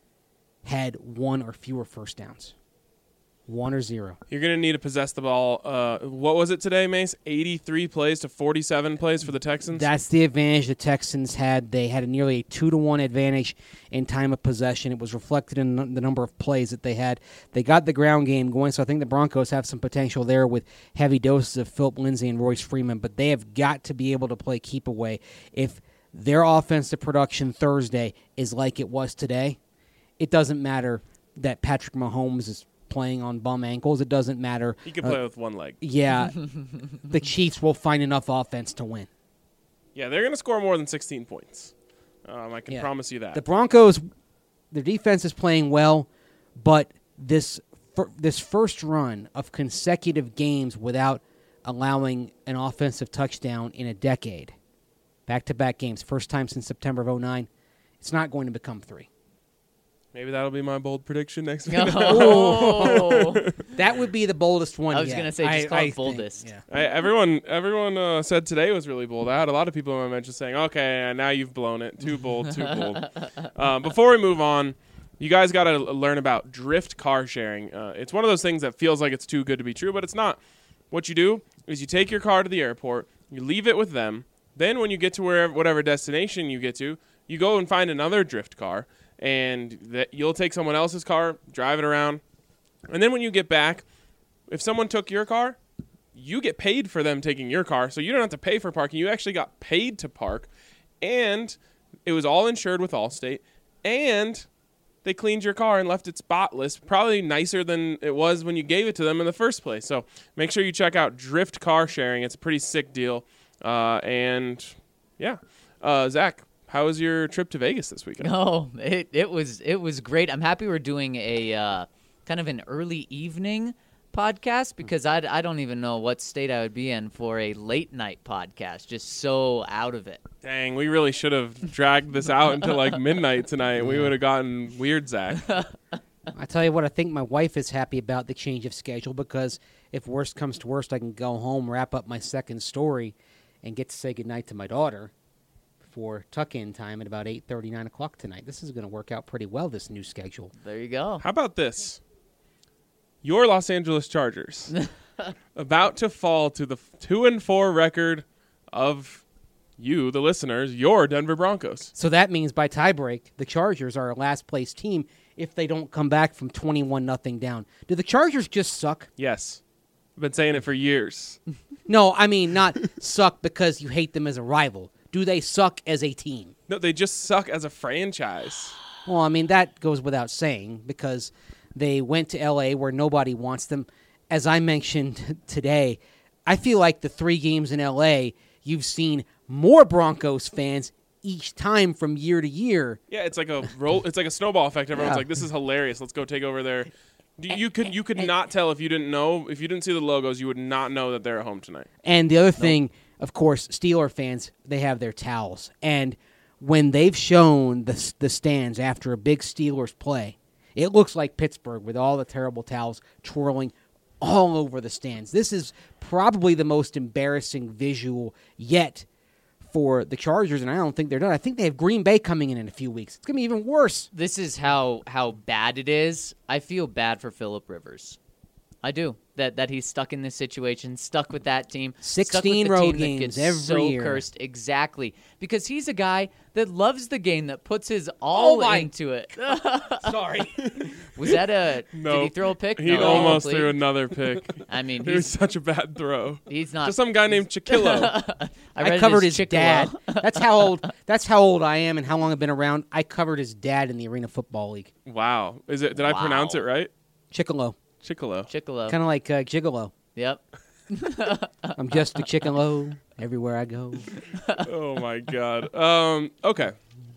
[SPEAKER 4] had 1 or fewer first downs. 1 or 0.
[SPEAKER 1] You're going to need to possess the ball. What was it today, Mace? 83 plays to 47 plays for the Texans?
[SPEAKER 4] That's the advantage the Texans had. They had nearly a 2-to-1 advantage in time of possession. It was reflected in the number of plays that they had. They got the ground game going, so I think the Broncos have some potential there with heavy doses of Philip Lindsay and Royce Freeman, but they have got to be able to play keep away. If their offensive production Thursday is like it was today, it doesn't matter that Patrick Mahomes is playing on bum ankles. It doesn't matter.
[SPEAKER 1] He can play with one leg.
[SPEAKER 4] Yeah, the Chiefs will find enough offense to win.
[SPEAKER 1] Yeah, they're going to score more than 16 points. I can
[SPEAKER 4] Yeah.
[SPEAKER 1] promise you that.
[SPEAKER 4] The Broncos, their defense is playing well, but this first run of consecutive games without allowing an offensive touchdown in a decade, back-to-back games, first time since September of 2009, it's not going to become 3.
[SPEAKER 1] Maybe that'll be my bold prediction next week.
[SPEAKER 3] Oh.
[SPEAKER 4] That would be the boldest one
[SPEAKER 3] I was
[SPEAKER 4] yet.
[SPEAKER 3] going to say, just call
[SPEAKER 4] I
[SPEAKER 3] it
[SPEAKER 4] think,
[SPEAKER 3] boldest.
[SPEAKER 4] yeah.
[SPEAKER 1] Everyone said today was really bold. I had a lot of people in my mention saying, okay, now you've blown it. Too bold, too bold. Before we move on, you guys got to learn about drift car sharing. It's one of those things that feels like it's too good to be true, but it's not. What you do is you take your car to the airport, you leave it with them, then when you get to whatever destination you get to, you go and find another drift car, and you'll take someone else's car, drive it around, and then when you get back, if someone took your car, you get paid for them taking your car, so you don't have to pay for parking. You actually got paid to park, and it was all insured with Allstate, and they cleaned your car and left it spotless, probably nicer than it was when you gave it to them in the first place. So make sure you check out Drift Car Sharing. It's a pretty sick deal. And, yeah. Zach, how was your trip to Vegas this weekend?
[SPEAKER 3] Oh, it was great. I'm happy we're doing a kind of an early evening podcast because I don't even know what state I would be in for a late night podcast. Just so out of it.
[SPEAKER 1] Dang, we really should have dragged this out until like midnight tonight. We would have gotten weird, Zach.
[SPEAKER 4] I tell you what, I think my wife is happy about the change of schedule because if worst comes to worst, I can go home, wrap up my second story, and get to say goodnight to my daughter for tuck-in time at about 8:30, 9 o'clock tonight. This is going to work out pretty well, this new schedule.
[SPEAKER 3] There you go.
[SPEAKER 1] How about this? Your Los Angeles Chargers about to fall to the 2-4 record of you, the listeners, your Denver Broncos.
[SPEAKER 4] So that means by tiebreak, the Chargers are a last-place team if they don't come back from 21-0 down. Do the Chargers just suck?
[SPEAKER 1] Yes. I've been saying it for years.
[SPEAKER 4] No, I mean not suck because you hate them as a rival. Do they suck as a team?
[SPEAKER 1] No, they just suck as a franchise.
[SPEAKER 4] Well, I mean, that goes without saying because they went to L.A. where nobody wants them. As I mentioned today, I feel like the 3 games in L.A., you've seen more Broncos fans each time from year to year.
[SPEAKER 1] Yeah, it's like a it's like a snowball effect. Everyone's
[SPEAKER 4] Yeah.
[SPEAKER 1] like, "This is hilarious. Let's go take over there." You could not tell if you didn't see the logos, you would not know that they're at home tonight.
[SPEAKER 4] And the other thing, of course, Steeler fans, they have their towels. And when they've shown the stands after a big Steelers play, it looks like Pittsburgh with all the terrible towels twirling all over the stands. This is probably the most embarrassing visual yet for the Chargers, and I don't think they're done. I think they have Green Bay coming in a few weeks. It's going to be even worse.
[SPEAKER 3] This is how bad it is. I feel bad for Phillip Rivers. I do. That he's stuck in this situation, stuck with that team.
[SPEAKER 4] 16
[SPEAKER 3] stuck with the
[SPEAKER 4] road
[SPEAKER 3] team that
[SPEAKER 4] games
[SPEAKER 3] gets
[SPEAKER 4] every
[SPEAKER 3] so
[SPEAKER 4] year.
[SPEAKER 3] cursed. Exactly. Because he's a guy that loves the game, that puts his all into it.
[SPEAKER 4] Sorry.
[SPEAKER 3] Was that a...
[SPEAKER 1] No.
[SPEAKER 3] Did he throw a pick?
[SPEAKER 1] He
[SPEAKER 3] No,
[SPEAKER 1] almost
[SPEAKER 3] complete.
[SPEAKER 1] threw another pick.
[SPEAKER 3] I mean,
[SPEAKER 1] It was such a bad throw.
[SPEAKER 3] he's not...
[SPEAKER 1] Just some guy named Chiquillo.
[SPEAKER 3] I
[SPEAKER 4] covered his
[SPEAKER 3] Chick-fil-A.
[SPEAKER 4] dad. That's how old I am and how long I've been around. I covered his dad in the Arena Football League.
[SPEAKER 1] Wow. Did I pronounce it right?
[SPEAKER 4] Chickalo.
[SPEAKER 1] Chiquillo.
[SPEAKER 3] Chick-fil-A.
[SPEAKER 4] Kind of like Gigolo.
[SPEAKER 3] Yep.
[SPEAKER 4] I'm just a Chickalo everywhere I go.
[SPEAKER 1] Oh my God. Okay.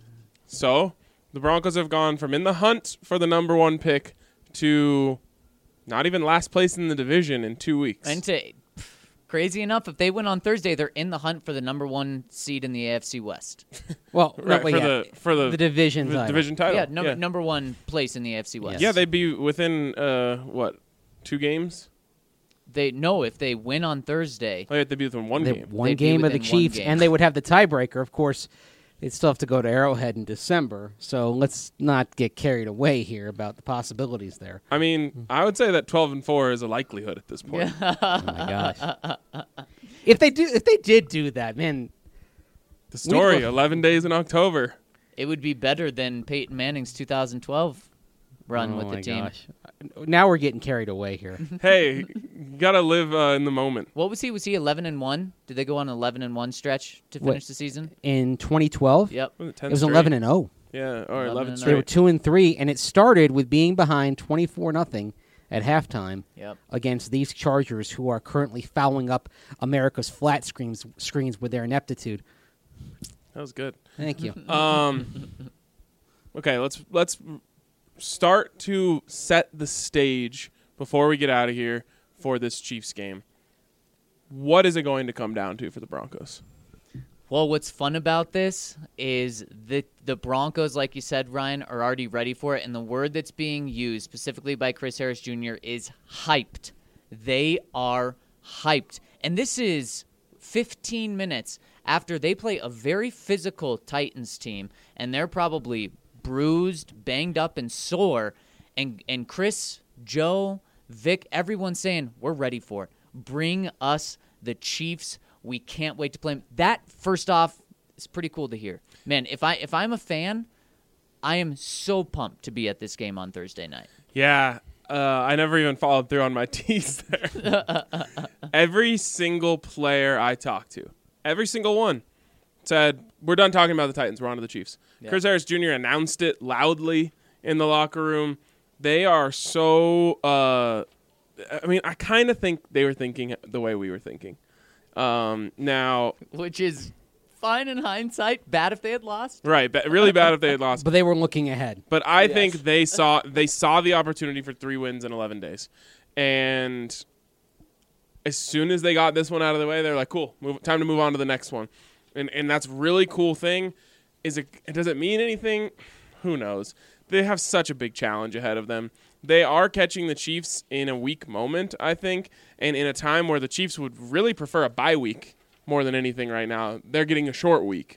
[SPEAKER 1] So the Broncos have gone from in the hunt for the number 1 pick to not even last place in the division in 2 weeks.
[SPEAKER 3] And crazy enough, if they win on Thursday, they're in the hunt for the number 1 seed in the AFC West.
[SPEAKER 4] Well,
[SPEAKER 1] Right, for the
[SPEAKER 4] division title.
[SPEAKER 1] division title.
[SPEAKER 3] Yeah, number 1 place in the AFC West.
[SPEAKER 1] Yeah, they'd be within 2 games.
[SPEAKER 3] If they win on Thursday,
[SPEAKER 1] Oh, yeah, they'd be within 1
[SPEAKER 4] They-
[SPEAKER 1] game.
[SPEAKER 4] one
[SPEAKER 3] They'd be
[SPEAKER 4] game of the
[SPEAKER 3] within one
[SPEAKER 4] Chiefs,
[SPEAKER 3] game.
[SPEAKER 4] and they would have the tiebreaker. Of course, they'd still have to go to Arrowhead in December. So let's not get carried away here about the possibilities there.
[SPEAKER 1] I mean, I would say that 12-4 is a likelihood at this point.
[SPEAKER 4] Oh my gosh! if they did do that, man,
[SPEAKER 1] The story:
[SPEAKER 4] We'd-
[SPEAKER 1] 11 days in October.
[SPEAKER 3] it would be better than Peyton Manning's 2012 run
[SPEAKER 4] oh
[SPEAKER 3] with
[SPEAKER 4] my
[SPEAKER 3] the team.
[SPEAKER 4] gosh. now we're getting carried away here.
[SPEAKER 1] Hey, you gotta live in the moment.
[SPEAKER 3] What was he? Was he 11-1? Did they go on an 11-1 stretch to finish the season?
[SPEAKER 4] In 2012,
[SPEAKER 3] Yep.
[SPEAKER 1] Was it 10
[SPEAKER 4] it was
[SPEAKER 1] straight?
[SPEAKER 4] 11-0.
[SPEAKER 1] Yeah, or 11
[SPEAKER 3] 11-0.
[SPEAKER 4] They were
[SPEAKER 1] straight.
[SPEAKER 4] 2-3, and it started with being behind 24-0 at halftime
[SPEAKER 3] Yep.
[SPEAKER 4] against these Chargers, who are currently fouling up America's flat screens with their ineptitude.
[SPEAKER 1] That was good.
[SPEAKER 4] Thank you.
[SPEAKER 1] Okay, let's start to set the stage before we get out of here for this Chiefs game. What is it going to come down to for the Broncos?
[SPEAKER 3] Well, what's fun about this is the Broncos, like you said, Ryan, are already ready for it. And the word that's being used specifically by Chris Harris Jr. is hyped. They are hyped. And this is 15 minutes after they play a very physical Titans team. And they're probably bruised, banged up, and sore. And Chris, Joe, Vic, everyone's saying, we're ready for it. Bring us the Chiefs. We can't wait to play them. That, first off, is pretty cool to hear. Man, if I'm a fan, I am so pumped to be at this game on Thursday night.
[SPEAKER 1] Yeah, I never even followed through on my tease there. Every single player I talked to, every single one, said, we're done talking about the Titans. We're on to the Chiefs.
[SPEAKER 3] Yeah.
[SPEAKER 1] Chris Harris Jr. announced it loudly in the locker room. They are so I kind of think they were thinking the way we were thinking. Now,
[SPEAKER 3] Which is fine in hindsight, bad if they had lost.
[SPEAKER 1] right, really bad if they had lost.
[SPEAKER 4] But they were looking ahead.
[SPEAKER 1] But I think they saw the opportunity for 3 wins in 11 days, and as soon as they got this one out of the way, they're like, "Cool, time to move on to the next one," and that's really cool thing. Does it mean anything? Who knows? They have such a big challenge ahead of them. They are catching the Chiefs in a weak moment, I think, and in a time where the Chiefs would really prefer a bye week more than anything right now. They're getting a short week.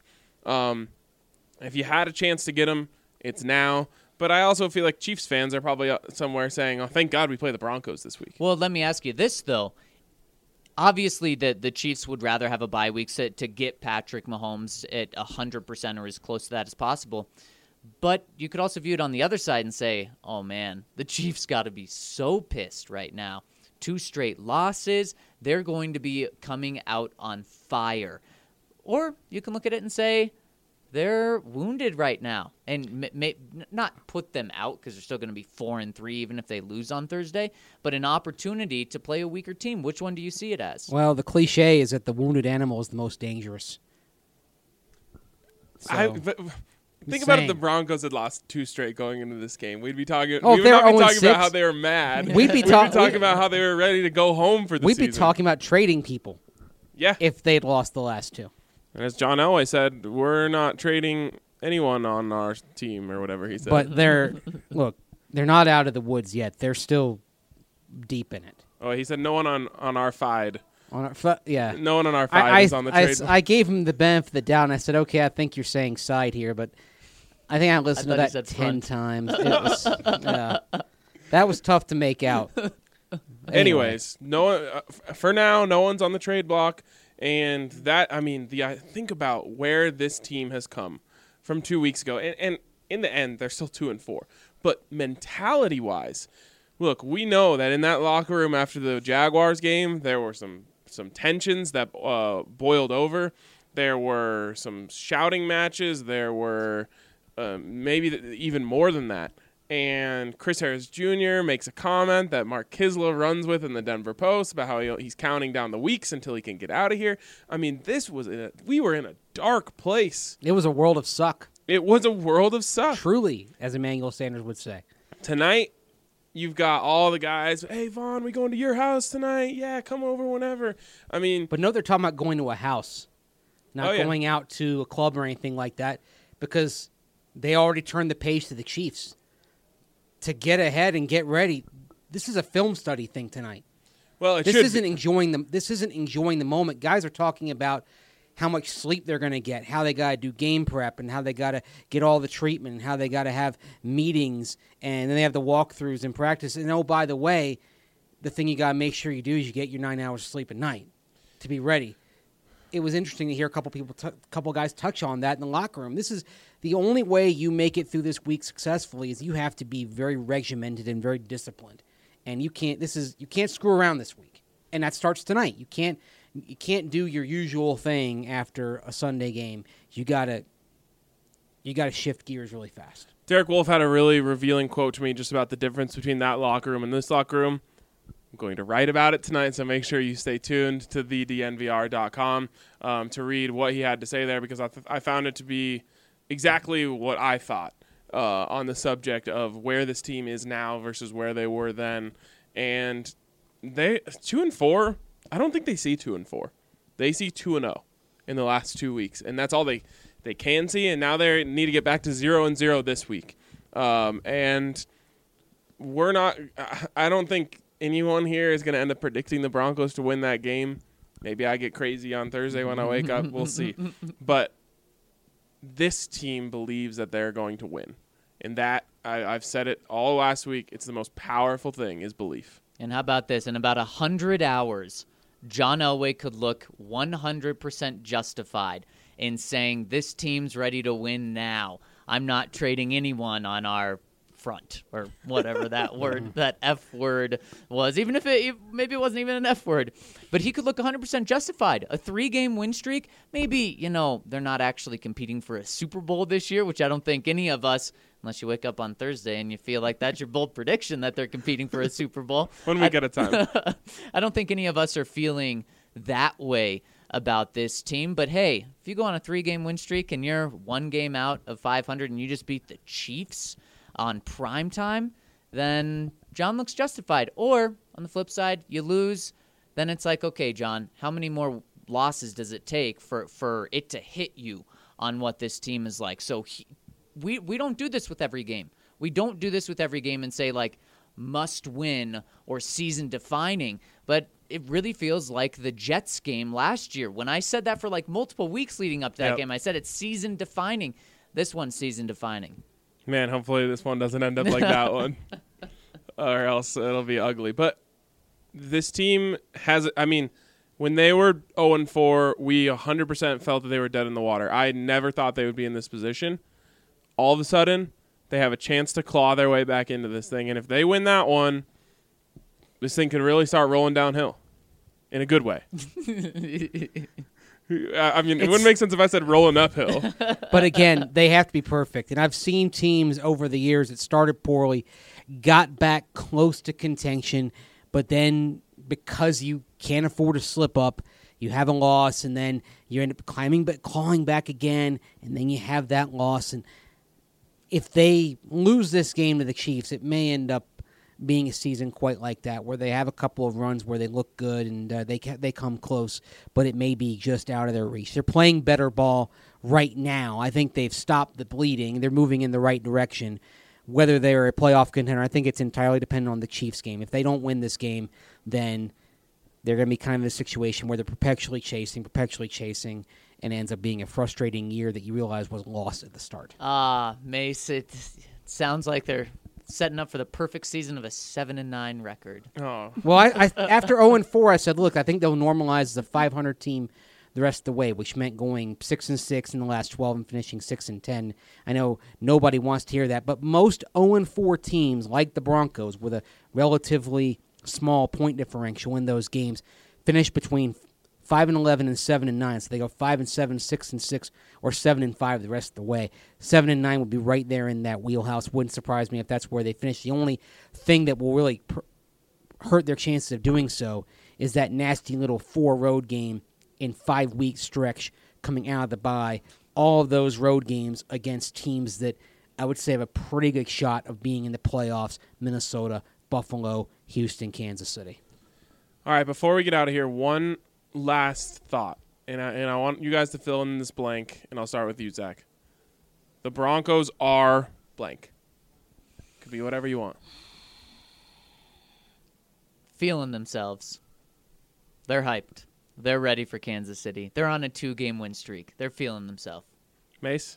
[SPEAKER 1] If you had a chance to get them, it's now. But I also feel like Chiefs fans are probably somewhere saying, oh, thank God we play the Broncos this week.
[SPEAKER 3] Well, let me ask you this, though. Obviously, the Chiefs would rather have a bye week to get Patrick Mahomes at 100% or as close to that as possible. But you could also view it on the other side and say, oh, man, the Chiefs got to be so pissed right now. 2 straight losses. They're going to be coming out on fire. Or you can look at it and say, they're wounded right now. And not put them out because they're still going to be 4-3 even if they lose on Thursday. But an opportunity to play a weaker team. Which one do you see it as?
[SPEAKER 4] Well, the cliche is that the wounded animal is the most dangerous. So,
[SPEAKER 1] Think about if the
[SPEAKER 4] saying.
[SPEAKER 1] Broncos had lost 2 straight going into this game. We'd be talking.
[SPEAKER 4] Oh,
[SPEAKER 1] we
[SPEAKER 4] if
[SPEAKER 1] would
[SPEAKER 4] they
[SPEAKER 1] not
[SPEAKER 4] were
[SPEAKER 1] be talking
[SPEAKER 4] 0-6,
[SPEAKER 1] about how they were mad.
[SPEAKER 4] We'd be
[SPEAKER 1] talking about how they were ready to go home for the
[SPEAKER 4] we'd
[SPEAKER 1] season.
[SPEAKER 4] be talking about trading people
[SPEAKER 1] Yeah.
[SPEAKER 4] if they'd lost the last 2.
[SPEAKER 1] And as John Elway said, we're not trading anyone on our team or whatever he said.
[SPEAKER 4] But they're not out of the woods yet. They're still deep in it.
[SPEAKER 1] Oh, he said no one on our FIDE.
[SPEAKER 4] Yeah.
[SPEAKER 1] No one on our FIDE is on the trade.
[SPEAKER 4] I gave him the benefit of the doubt, and I said, okay, I think you're saying side here, but I think I listened to
[SPEAKER 3] thought he
[SPEAKER 4] that
[SPEAKER 3] said
[SPEAKER 4] 10
[SPEAKER 3] front.
[SPEAKER 4] times. It was, that was tough to make out.
[SPEAKER 1] Anyways, no one, for now, no one's on the trade block. And that, think about where this team has come from 2 weeks ago. And in the end, they're still 2-4. But mentality-wise, look, we know that in that locker room after the Jaguars game, there were some tensions that boiled over. There were some shouting matches. There were maybe even more than that. And Chris Harris Jr. makes a comment that Mark Kisla runs with in the Denver Post about how he's counting down the weeks until he can get out of here. I mean, we were in a dark place.
[SPEAKER 4] It was a world of suck.
[SPEAKER 1] It was a world of suck.
[SPEAKER 4] Truly, as Emmanuel Sanders would say.
[SPEAKER 1] Tonight, you've got all the guys. Hey, Vaughn, we going to your house tonight? Yeah, come over whenever. I mean,
[SPEAKER 4] But no, they're talking about going to a house, not going out to a club or anything like that, because they already turned the page to the Chiefs. To get ahead and get ready, this is a film study thing tonight.
[SPEAKER 1] well,
[SPEAKER 4] This isn't enjoying the moment. Guys are talking about how much sleep they're going to get, how they got to do game prep, and how they got to get all the treatment, and how they got to have meetings, and then they have the walkthroughs in practice. And oh, by the way, the thing you got to make sure you do is you get your 9 hours of sleep at night to be ready. it was interesting to hear a couple guys touch on that in the locker room. This is the only way you make it through this week successfully is you have to be very regimented and very disciplined, and you can't screw around this week, and that starts tonight. You can't do your usual thing after a Sunday game. You gotta shift gears really fast.
[SPEAKER 1] Derek Wolfe had a really revealing quote to me just about the difference between that locker room and this locker room. I'm going to write about it tonight, so make sure you stay tuned to thednvr.com to read what he had to say there, because I found it to be exactly what I thought on the subject of where this team is now versus where they were then. And they 2-4. I don't think they see 2-4. They see 2-0 in the last 2 weeks, and that's all they can see. And now they need to get back to 0-0 this week. And we're not. I don't think anyone here is going to end up predicting the Broncos to win that game. Maybe I get crazy on Thursday when I wake up. We'll see. But this team believes that they're going to win. And that, I've said it all last week, it's the most powerful thing is belief.
[SPEAKER 3] And how about this? In about 100 hours, John Elway could look 100% justified in saying this team's ready to win now. I'm not trading anyone on our front, or whatever that word, that F word was, even if maybe it wasn't even an F word. But he could look 100% justified. A 3-game win streak, maybe, they're not actually competing for a Super Bowl this year, which I don't think any of us, unless you wake up on Thursday and you feel like that's your bold prediction that they're competing for a Super Bowl.
[SPEAKER 1] 1 week at a time.
[SPEAKER 3] I don't think any of us are feeling that way about this team. But hey, if you go on a 3-game win streak and you're 1 game out of 500 and you just beat the Chiefs on prime time, then John looks justified. Or on the flip side, you lose, then it's like, okay, John, how many more losses does it take for it to hit you on what this team is like? So we don't do this with every game. We don't do this with every game and say, like, must win or season defining. But it really feels like the Jets game last year. When I said that for like multiple weeks leading up to that game, I said it's season defining. This one's season defining.
[SPEAKER 1] Man, hopefully this one doesn't end up like that one, or else it'll be ugly. But this team has, when they were 0-4, we 100% felt that they were dead in the water. I never thought they would be in this position. All of a sudden, they have a chance to claw their way back into this thing. And if they win that one, this thing could really start rolling downhill in a good way. It wouldn't make sense if I said rolling uphill.
[SPEAKER 4] But again, they have to be perfect. And I've seen teams over the years that started poorly, got back close to contention, but then because you can't afford to slip up, you have a loss, and then you end up clawing back again, and then you have that loss. And if they lose this game to the Chiefs, it may end up being a season quite like that, where they have a couple of runs where they look good and they come close, but it may be just out of their reach. They're playing better ball right now. I think they've stopped the bleeding. They're moving in the right direction. Whether they're a playoff contender, I think it's entirely dependent on the Chiefs game. If they don't win this game, then they're going to be kind of in a situation where they're perpetually chasing, and it ends up being a frustrating year that you realize was lost at the start.
[SPEAKER 3] Mace, it sounds like they're setting up for the perfect season of a 7-9 record.
[SPEAKER 1] Oh.
[SPEAKER 4] Well, I after 0-4, I said, look, I think they'll normalize the 500 team the rest of the way, which meant going 6-6 in the last 12 and finishing 6-10. I know nobody wants to hear that, but most 0-4 teams, like the Broncos, with a relatively small point differential in those games, finish between 5-11 and 7-9. So they go 5-7, 6-6, or 7-5 the rest of the way. 7-9 would be right there in that wheelhouse. Wouldn't surprise me if that's where they finish. The only thing that will really hurt their chances of doing so is that nasty little 4-road game in 5-week stretch coming out of the bye. All of those road games against teams that I would say have a pretty good shot of being in the playoffs: Minnesota, Buffalo, Houston, Kansas City.
[SPEAKER 1] All right, before we get out of here, one last thought, and I want you guys to fill in this blank, and I'll start with you, Zach. The Broncos are blank. Could be whatever you want.
[SPEAKER 3] Feeling themselves. They're hyped. They're ready for Kansas City. They're on a 2-game win streak. They're feeling themselves.
[SPEAKER 1] Mace?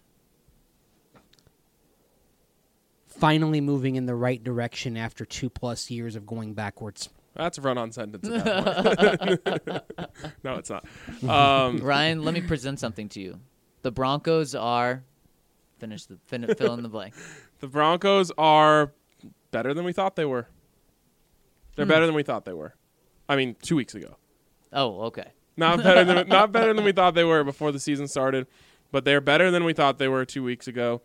[SPEAKER 4] Finally moving in the right direction after 2+ years of going backwards.
[SPEAKER 1] That's a run-on sentence at that point. No, it's not.
[SPEAKER 3] Ryan, let me present something to you. The Broncos are fill in the blank.
[SPEAKER 1] The Broncos are better than we thought they were. They're better than we thought they were. I mean, 2 weeks ago.
[SPEAKER 3] Oh, okay.
[SPEAKER 1] Not better than we thought they were before the season started, but they're better than we thought they were 2 weeks ago.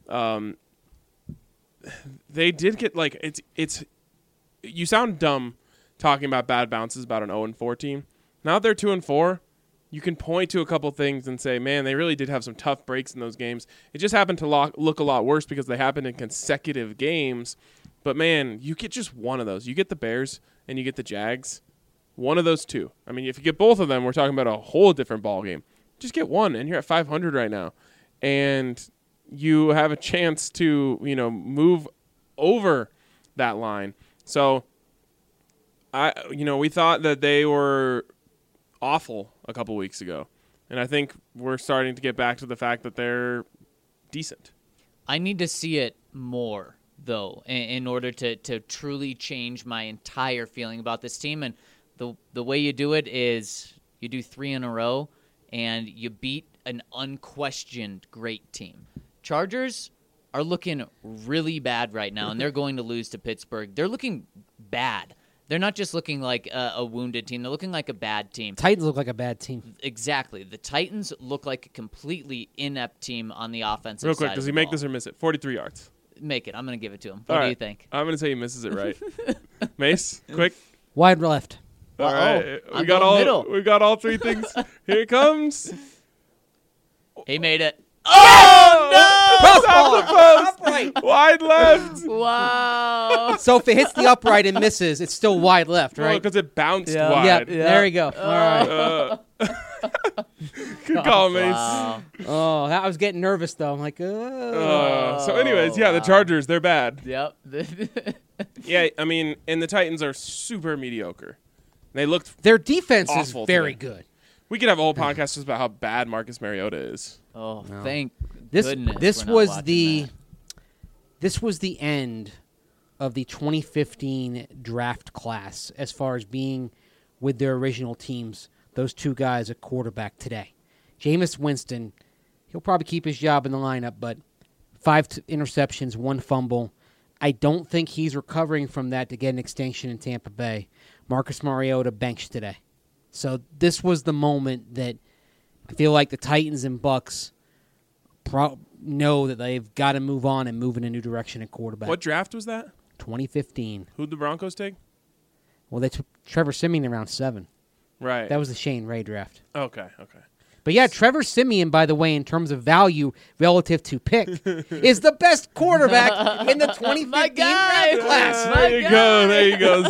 [SPEAKER 1] They did get it's. You sound dumb talking about bad bounces about an 0-4 team. Now that they're 2-4, you can point to a couple things and say, man, they really did have some tough breaks in those games. It just happened to look a lot worse because they happened in consecutive games. But, man, you get just one of those. You get the Bears and you get the Jags. One of those two. I mean, if you get both of them, we're talking about a whole different ball game. Just get one, and you're at 500 right now. And you have a chance to, move over that line. So, we thought that they were awful a couple weeks ago. And I think we're starting to get back to the fact that they're decent.
[SPEAKER 3] I need to see it more, though, in order to truly change my entire feeling about this team. And the way you do it is you do 3 in a row, and you beat an unquestioned great team. Chargers are looking really bad right now, and they're going to lose to Pittsburgh. They're looking bad. They're not just looking like a wounded team. They're looking like a bad team.
[SPEAKER 4] Titans look like a bad team.
[SPEAKER 3] Exactly. The Titans look like a completely inept team on the offensive side.
[SPEAKER 1] Real quick, does he make this or miss it? 43 yards.
[SPEAKER 3] Make it. I'm going to give it to him. What do you think?
[SPEAKER 1] I'm going to say he misses it right. Mace, quick.
[SPEAKER 4] Wide left.
[SPEAKER 1] All right.
[SPEAKER 3] I'm going middle.
[SPEAKER 1] We got all three things. Here it comes.
[SPEAKER 3] He made it.
[SPEAKER 1] Oh, no!
[SPEAKER 4] Upright.
[SPEAKER 1] Wide left.
[SPEAKER 3] Wow.
[SPEAKER 4] So if it hits the upright and misses, it's still wide left, right?
[SPEAKER 1] Because it bounced
[SPEAKER 3] Yeah.
[SPEAKER 1] wide.
[SPEAKER 4] Yep. There you go. All right.
[SPEAKER 1] Good call, Mace.
[SPEAKER 3] Wow.
[SPEAKER 4] Oh, I was getting nervous though. I'm like,
[SPEAKER 1] So anyways, the Chargers, they're bad.
[SPEAKER 3] Yep.
[SPEAKER 1] Yeah, I mean, and the Titans are super mediocre. They looked
[SPEAKER 4] their defense is
[SPEAKER 1] awful
[SPEAKER 4] very
[SPEAKER 1] today.
[SPEAKER 4] good.
[SPEAKER 1] We could have a whole podcast just about how bad Marcus Mariota is.
[SPEAKER 3] Oh, thank
[SPEAKER 4] This
[SPEAKER 3] goodness.
[SPEAKER 4] this
[SPEAKER 3] we're not
[SPEAKER 4] was
[SPEAKER 3] watching
[SPEAKER 4] the
[SPEAKER 3] that.
[SPEAKER 4] this was the end of the 2015 draft class as far as being with their original teams. Those two guys at quarterback today. Jameis Winston, he'll probably keep his job in the lineup, but 5 interceptions, 1 fumble. I don't think he's recovering from that to get an extension in Tampa Bay. Marcus Mariota benched today. So this was the moment that I feel like the Titans and Bucks know that they've got to move on and move in a new direction at quarterback.
[SPEAKER 1] What draft was that?
[SPEAKER 4] 2015.
[SPEAKER 1] Who'd the Broncos take?
[SPEAKER 4] Well, they took Trevor Siemian in round 7.
[SPEAKER 1] Right.
[SPEAKER 4] That was the Shane Ray draft.
[SPEAKER 1] Okay.
[SPEAKER 4] But yeah, Trevor Siemian, by the way, in terms of value relative to pick, is the best quarterback in the 2015 draft class.
[SPEAKER 1] There you go,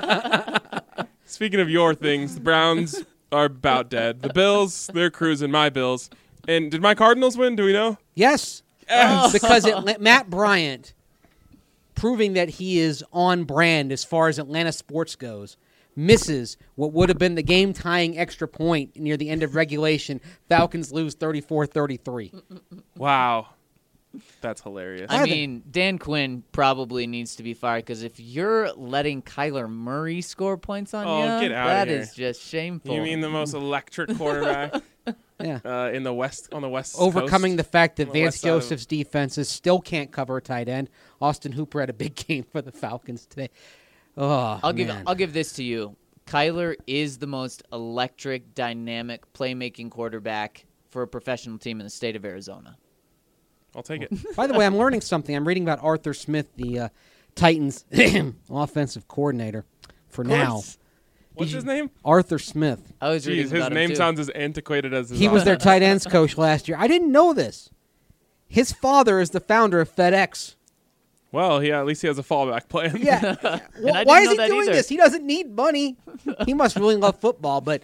[SPEAKER 1] Zach. Speaking of your things, the Browns are about dead. The Bills, they're cruising. My Bills. And did my Cardinals win? Do we know?
[SPEAKER 4] Yes. Because Matt Bryant, proving that he is on brand as far as Atlanta sports goes, misses what would have been the game-tying extra point near the end of regulation. Falcons lose 34-33.
[SPEAKER 1] Wow. That's hilarious.
[SPEAKER 3] I mean, Dan Quinn probably needs to be fired because if you're letting Kyler Murray score points on you,
[SPEAKER 1] get out
[SPEAKER 3] that
[SPEAKER 1] of here.
[SPEAKER 3] is just shameful.
[SPEAKER 1] You mean the most electric quarterback
[SPEAKER 4] Yeah.
[SPEAKER 1] in the West on the West
[SPEAKER 4] Overcoming
[SPEAKER 1] Coast?
[SPEAKER 4] the fact that
[SPEAKER 1] On the
[SPEAKER 4] Vance
[SPEAKER 1] west side of-
[SPEAKER 4] Joseph's defenses still can't cover a tight end. Austin Hooper had a big game for the Falcons today. Oh,
[SPEAKER 3] I'll
[SPEAKER 4] man.
[SPEAKER 3] give this to you. Kyler is the most electric, dynamic, playmaking quarterback for a professional team in the state of Arizona.
[SPEAKER 1] I'll take it.
[SPEAKER 4] By the way, I'm learning something. I'm reading about Arthur Smith, the Titans offensive coordinator for now.
[SPEAKER 1] What's his name?
[SPEAKER 4] Arthur Smith.
[SPEAKER 3] I was reading
[SPEAKER 1] Jeez, his
[SPEAKER 3] about him
[SPEAKER 1] name
[SPEAKER 3] too.
[SPEAKER 1] sounds as antiquated as his
[SPEAKER 4] He was their
[SPEAKER 1] offense.
[SPEAKER 4] tight ends coach last year. I didn't know this. His father is the founder of FedEx.
[SPEAKER 1] Well, at least he has a fallback plan.
[SPEAKER 4] Yeah.
[SPEAKER 3] I
[SPEAKER 4] Why
[SPEAKER 3] didn't
[SPEAKER 4] is
[SPEAKER 3] know
[SPEAKER 4] he
[SPEAKER 3] that
[SPEAKER 4] doing
[SPEAKER 3] either.
[SPEAKER 4] this? He doesn't need money. He must really love football, but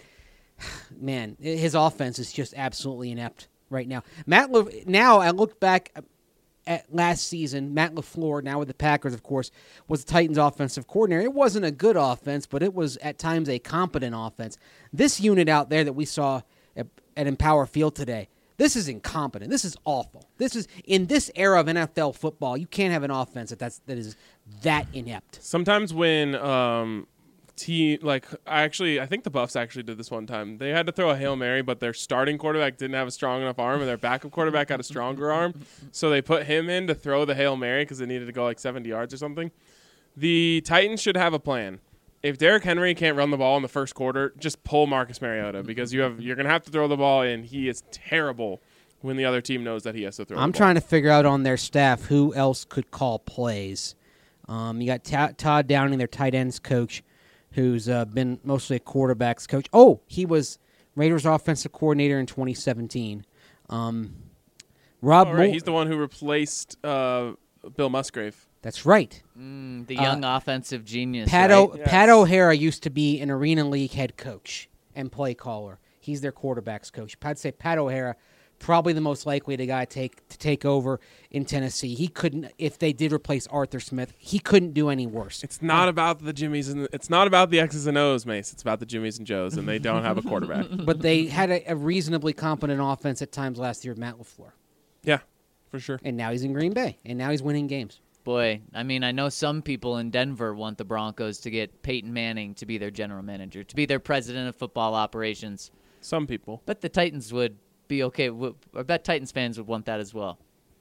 [SPEAKER 4] man, his offense is just absolutely inept right now. Now I looked back at last season. Matt LaFleur, now with the Packers, of course, was the Titans' offensive coordinator. It wasn't a good offense, but it was at times a competent offense. This unit out there that we saw at Empower Field today, this is incompetent. This is awful. This is in this era of NFL football. You can't have an offense that is that inept.
[SPEAKER 1] Sometimes when team, like I think the Buffs actually did this one time. They had to throw a Hail Mary, but their starting quarterback didn't have a strong enough arm, and their backup quarterback had a stronger arm. So they put him in to throw the Hail Mary because they needed to go like 70 yards or something. The Titans should have a plan. If Derrick Henry can't run the ball in the first quarter, just pull Marcus Mariota because you're going to have to throw the ball, and he is terrible when the other team knows that he has to throw the ball.
[SPEAKER 4] I'm trying to figure out on their staff who else could call plays. You got Todd Downing, their tight ends coach, who's been mostly a quarterback's coach. Oh, he was Raiders offensive coordinator in 2017. Rob Moore.
[SPEAKER 1] He's the one who replaced Bill Musgrave.
[SPEAKER 4] That's right.
[SPEAKER 3] The young offensive genius.
[SPEAKER 4] Pat
[SPEAKER 3] right?
[SPEAKER 4] O'Hara used to be an Arena League head coach and play caller. He's their quarterback's coach. I'd say Pat O'Hara, probably the most likely the guy to take over in Tennessee. He couldn't, if they did replace Arthur Smith, he couldn't do any worse.
[SPEAKER 1] It's not about the Jimmies and it's not about the X's and O's, Mace. It's about the Jimmies and Joes, and they don't have a quarterback.
[SPEAKER 4] But they had a reasonably competent offense at times last year with Matt LaFleur.
[SPEAKER 1] Yeah, for sure.
[SPEAKER 4] And now he's in Green Bay, and now he's winning games.
[SPEAKER 3] Boy, I mean, I know some people in Denver want the Broncos to get Peyton Manning to be their general manager, to be their president of football operations.
[SPEAKER 1] Some people.
[SPEAKER 3] But the Titans would be okay. I bet Titans fans would want that as well.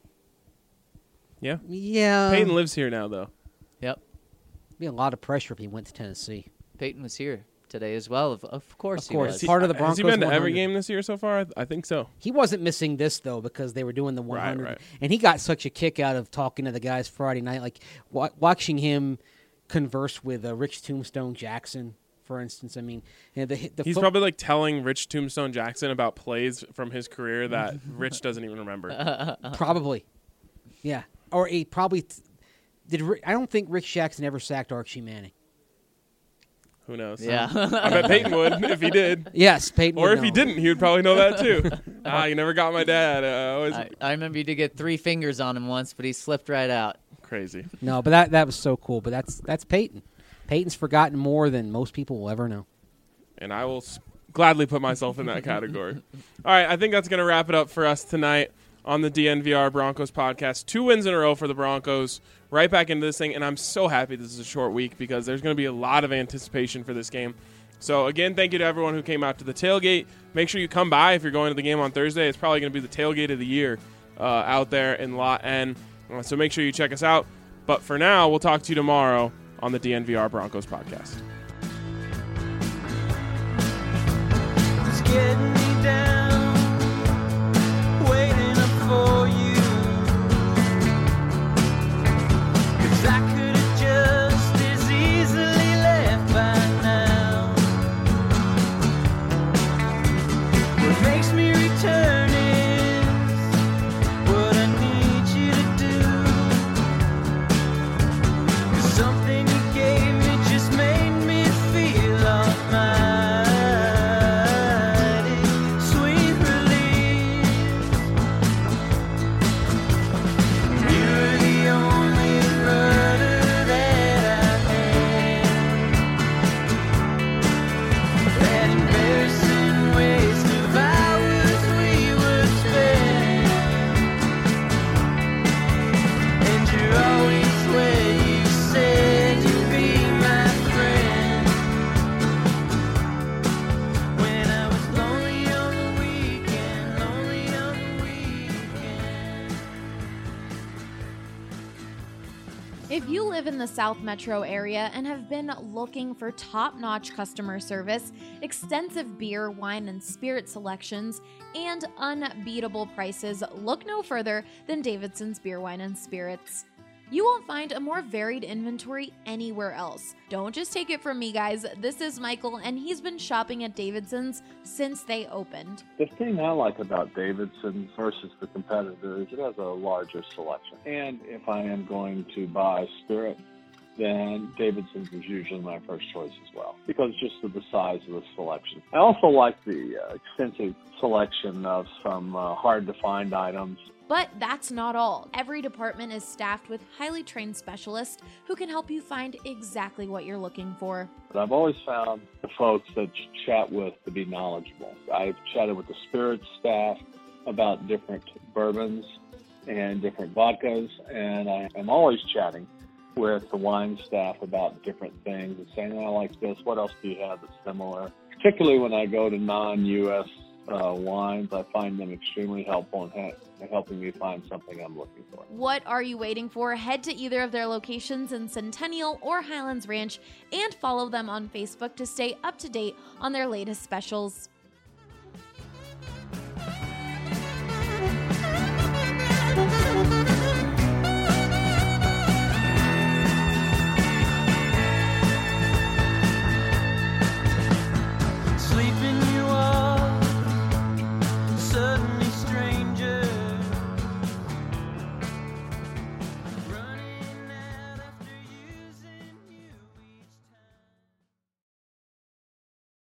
[SPEAKER 1] Yeah.
[SPEAKER 4] Yeah.
[SPEAKER 1] Peyton lives here now, though.
[SPEAKER 3] Yep.
[SPEAKER 4] Be a lot of pressure if he went to Tennessee.
[SPEAKER 3] Peyton was here today as well. Of course he
[SPEAKER 4] course.
[SPEAKER 3] was.
[SPEAKER 4] Part of the
[SPEAKER 1] Has he
[SPEAKER 4] Broncos
[SPEAKER 1] been to every
[SPEAKER 4] 100.
[SPEAKER 1] game this year so far? I think so.
[SPEAKER 4] He wasn't missing this, though, because they were doing the 100.
[SPEAKER 1] Right.
[SPEAKER 4] And he got such a kick out of talking to the guys Friday night, like watching him converse with Rich Tombstone Jackson, for instance. I mean,
[SPEAKER 1] He's probably like telling Rich Tombstone Jackson about plays from his career that Rich doesn't even remember.
[SPEAKER 4] Probably. Yeah. Or he probably did. I don't think Rich Jackson ever sacked Archie Manning.
[SPEAKER 1] Who knows?
[SPEAKER 3] Yeah.
[SPEAKER 1] I bet Peyton would if he did.
[SPEAKER 4] Yes, Peyton
[SPEAKER 1] Or
[SPEAKER 4] would
[SPEAKER 1] if he
[SPEAKER 4] know.
[SPEAKER 1] didn't, he would probably know that too. You never got my dad.
[SPEAKER 3] I remember you did get 3 fingers on him once, but he slipped right out.
[SPEAKER 1] Crazy.
[SPEAKER 4] No, but that was so cool. But that's Peyton. Peyton's forgotten more than most people will ever know.
[SPEAKER 1] And I will gladly put myself in that category. All right, I think that's going to wrap it up for us tonight on the DNVR Broncos podcast. 2 wins in a row for the Broncos. Right back into this thing, and I'm so happy this is a short week because there's going to be a lot of anticipation for this game. So, again, thank you to everyone who came out to the tailgate. Make sure you come by if you're going to the game on Thursday. It's probably going to be the tailgate of the year out there in Lot N. So make sure you check us out. But for now, we'll talk to you tomorrow on the DNVR Broncos podcast.
[SPEAKER 2] It's getting me down, waiting up for you. 'Cause I could have just as easily left by now. What makes me return is what I need you to do. 'Cause something you gave me just made me feel almighty. Sweet relief. You're the only rudder that I had. That embarrassing waste of hours we would spend. And you're always where you said you'd be my friend. When I was lonely on the weekend, lonely on the weekend.
[SPEAKER 5] If you live in the South Metro area and have been looking for top-notch customer service, extensive beer, wine, and spirit selections, and unbeatable prices, look no further than Davidson's Beer, Wine, and Spirits. You won't find a more varied inventory anywhere else. Don't just take it from me, guys. This is Michael, and he's been shopping at Davidson's since they opened.
[SPEAKER 6] The thing I like about Davidson versus the competitor is it has a larger selection. And if I am going to buy spirit, then Davidson's is usually my first choice as well, because just of the size of the selection. I also like the extensive selection of some hard-to-find items.
[SPEAKER 5] But that's not all. Every department is staffed with highly trained specialists who can help you find exactly what you're looking for.
[SPEAKER 6] But I've always found the folks that you chat with to be knowledgeable. I've chatted with the spirits staff about different bourbons and different vodkas, and I am always chatting with the wine staff about different things and saying, I like this, what else do you have that's similar? Particularly when I go to non-U.S. Wines, I find them extremely helpful in helping me find something I'm looking for.
[SPEAKER 5] What are you waiting for? Head to either of their locations in Centennial or Highlands Ranch and follow them on Facebook to stay up to date on their latest specials.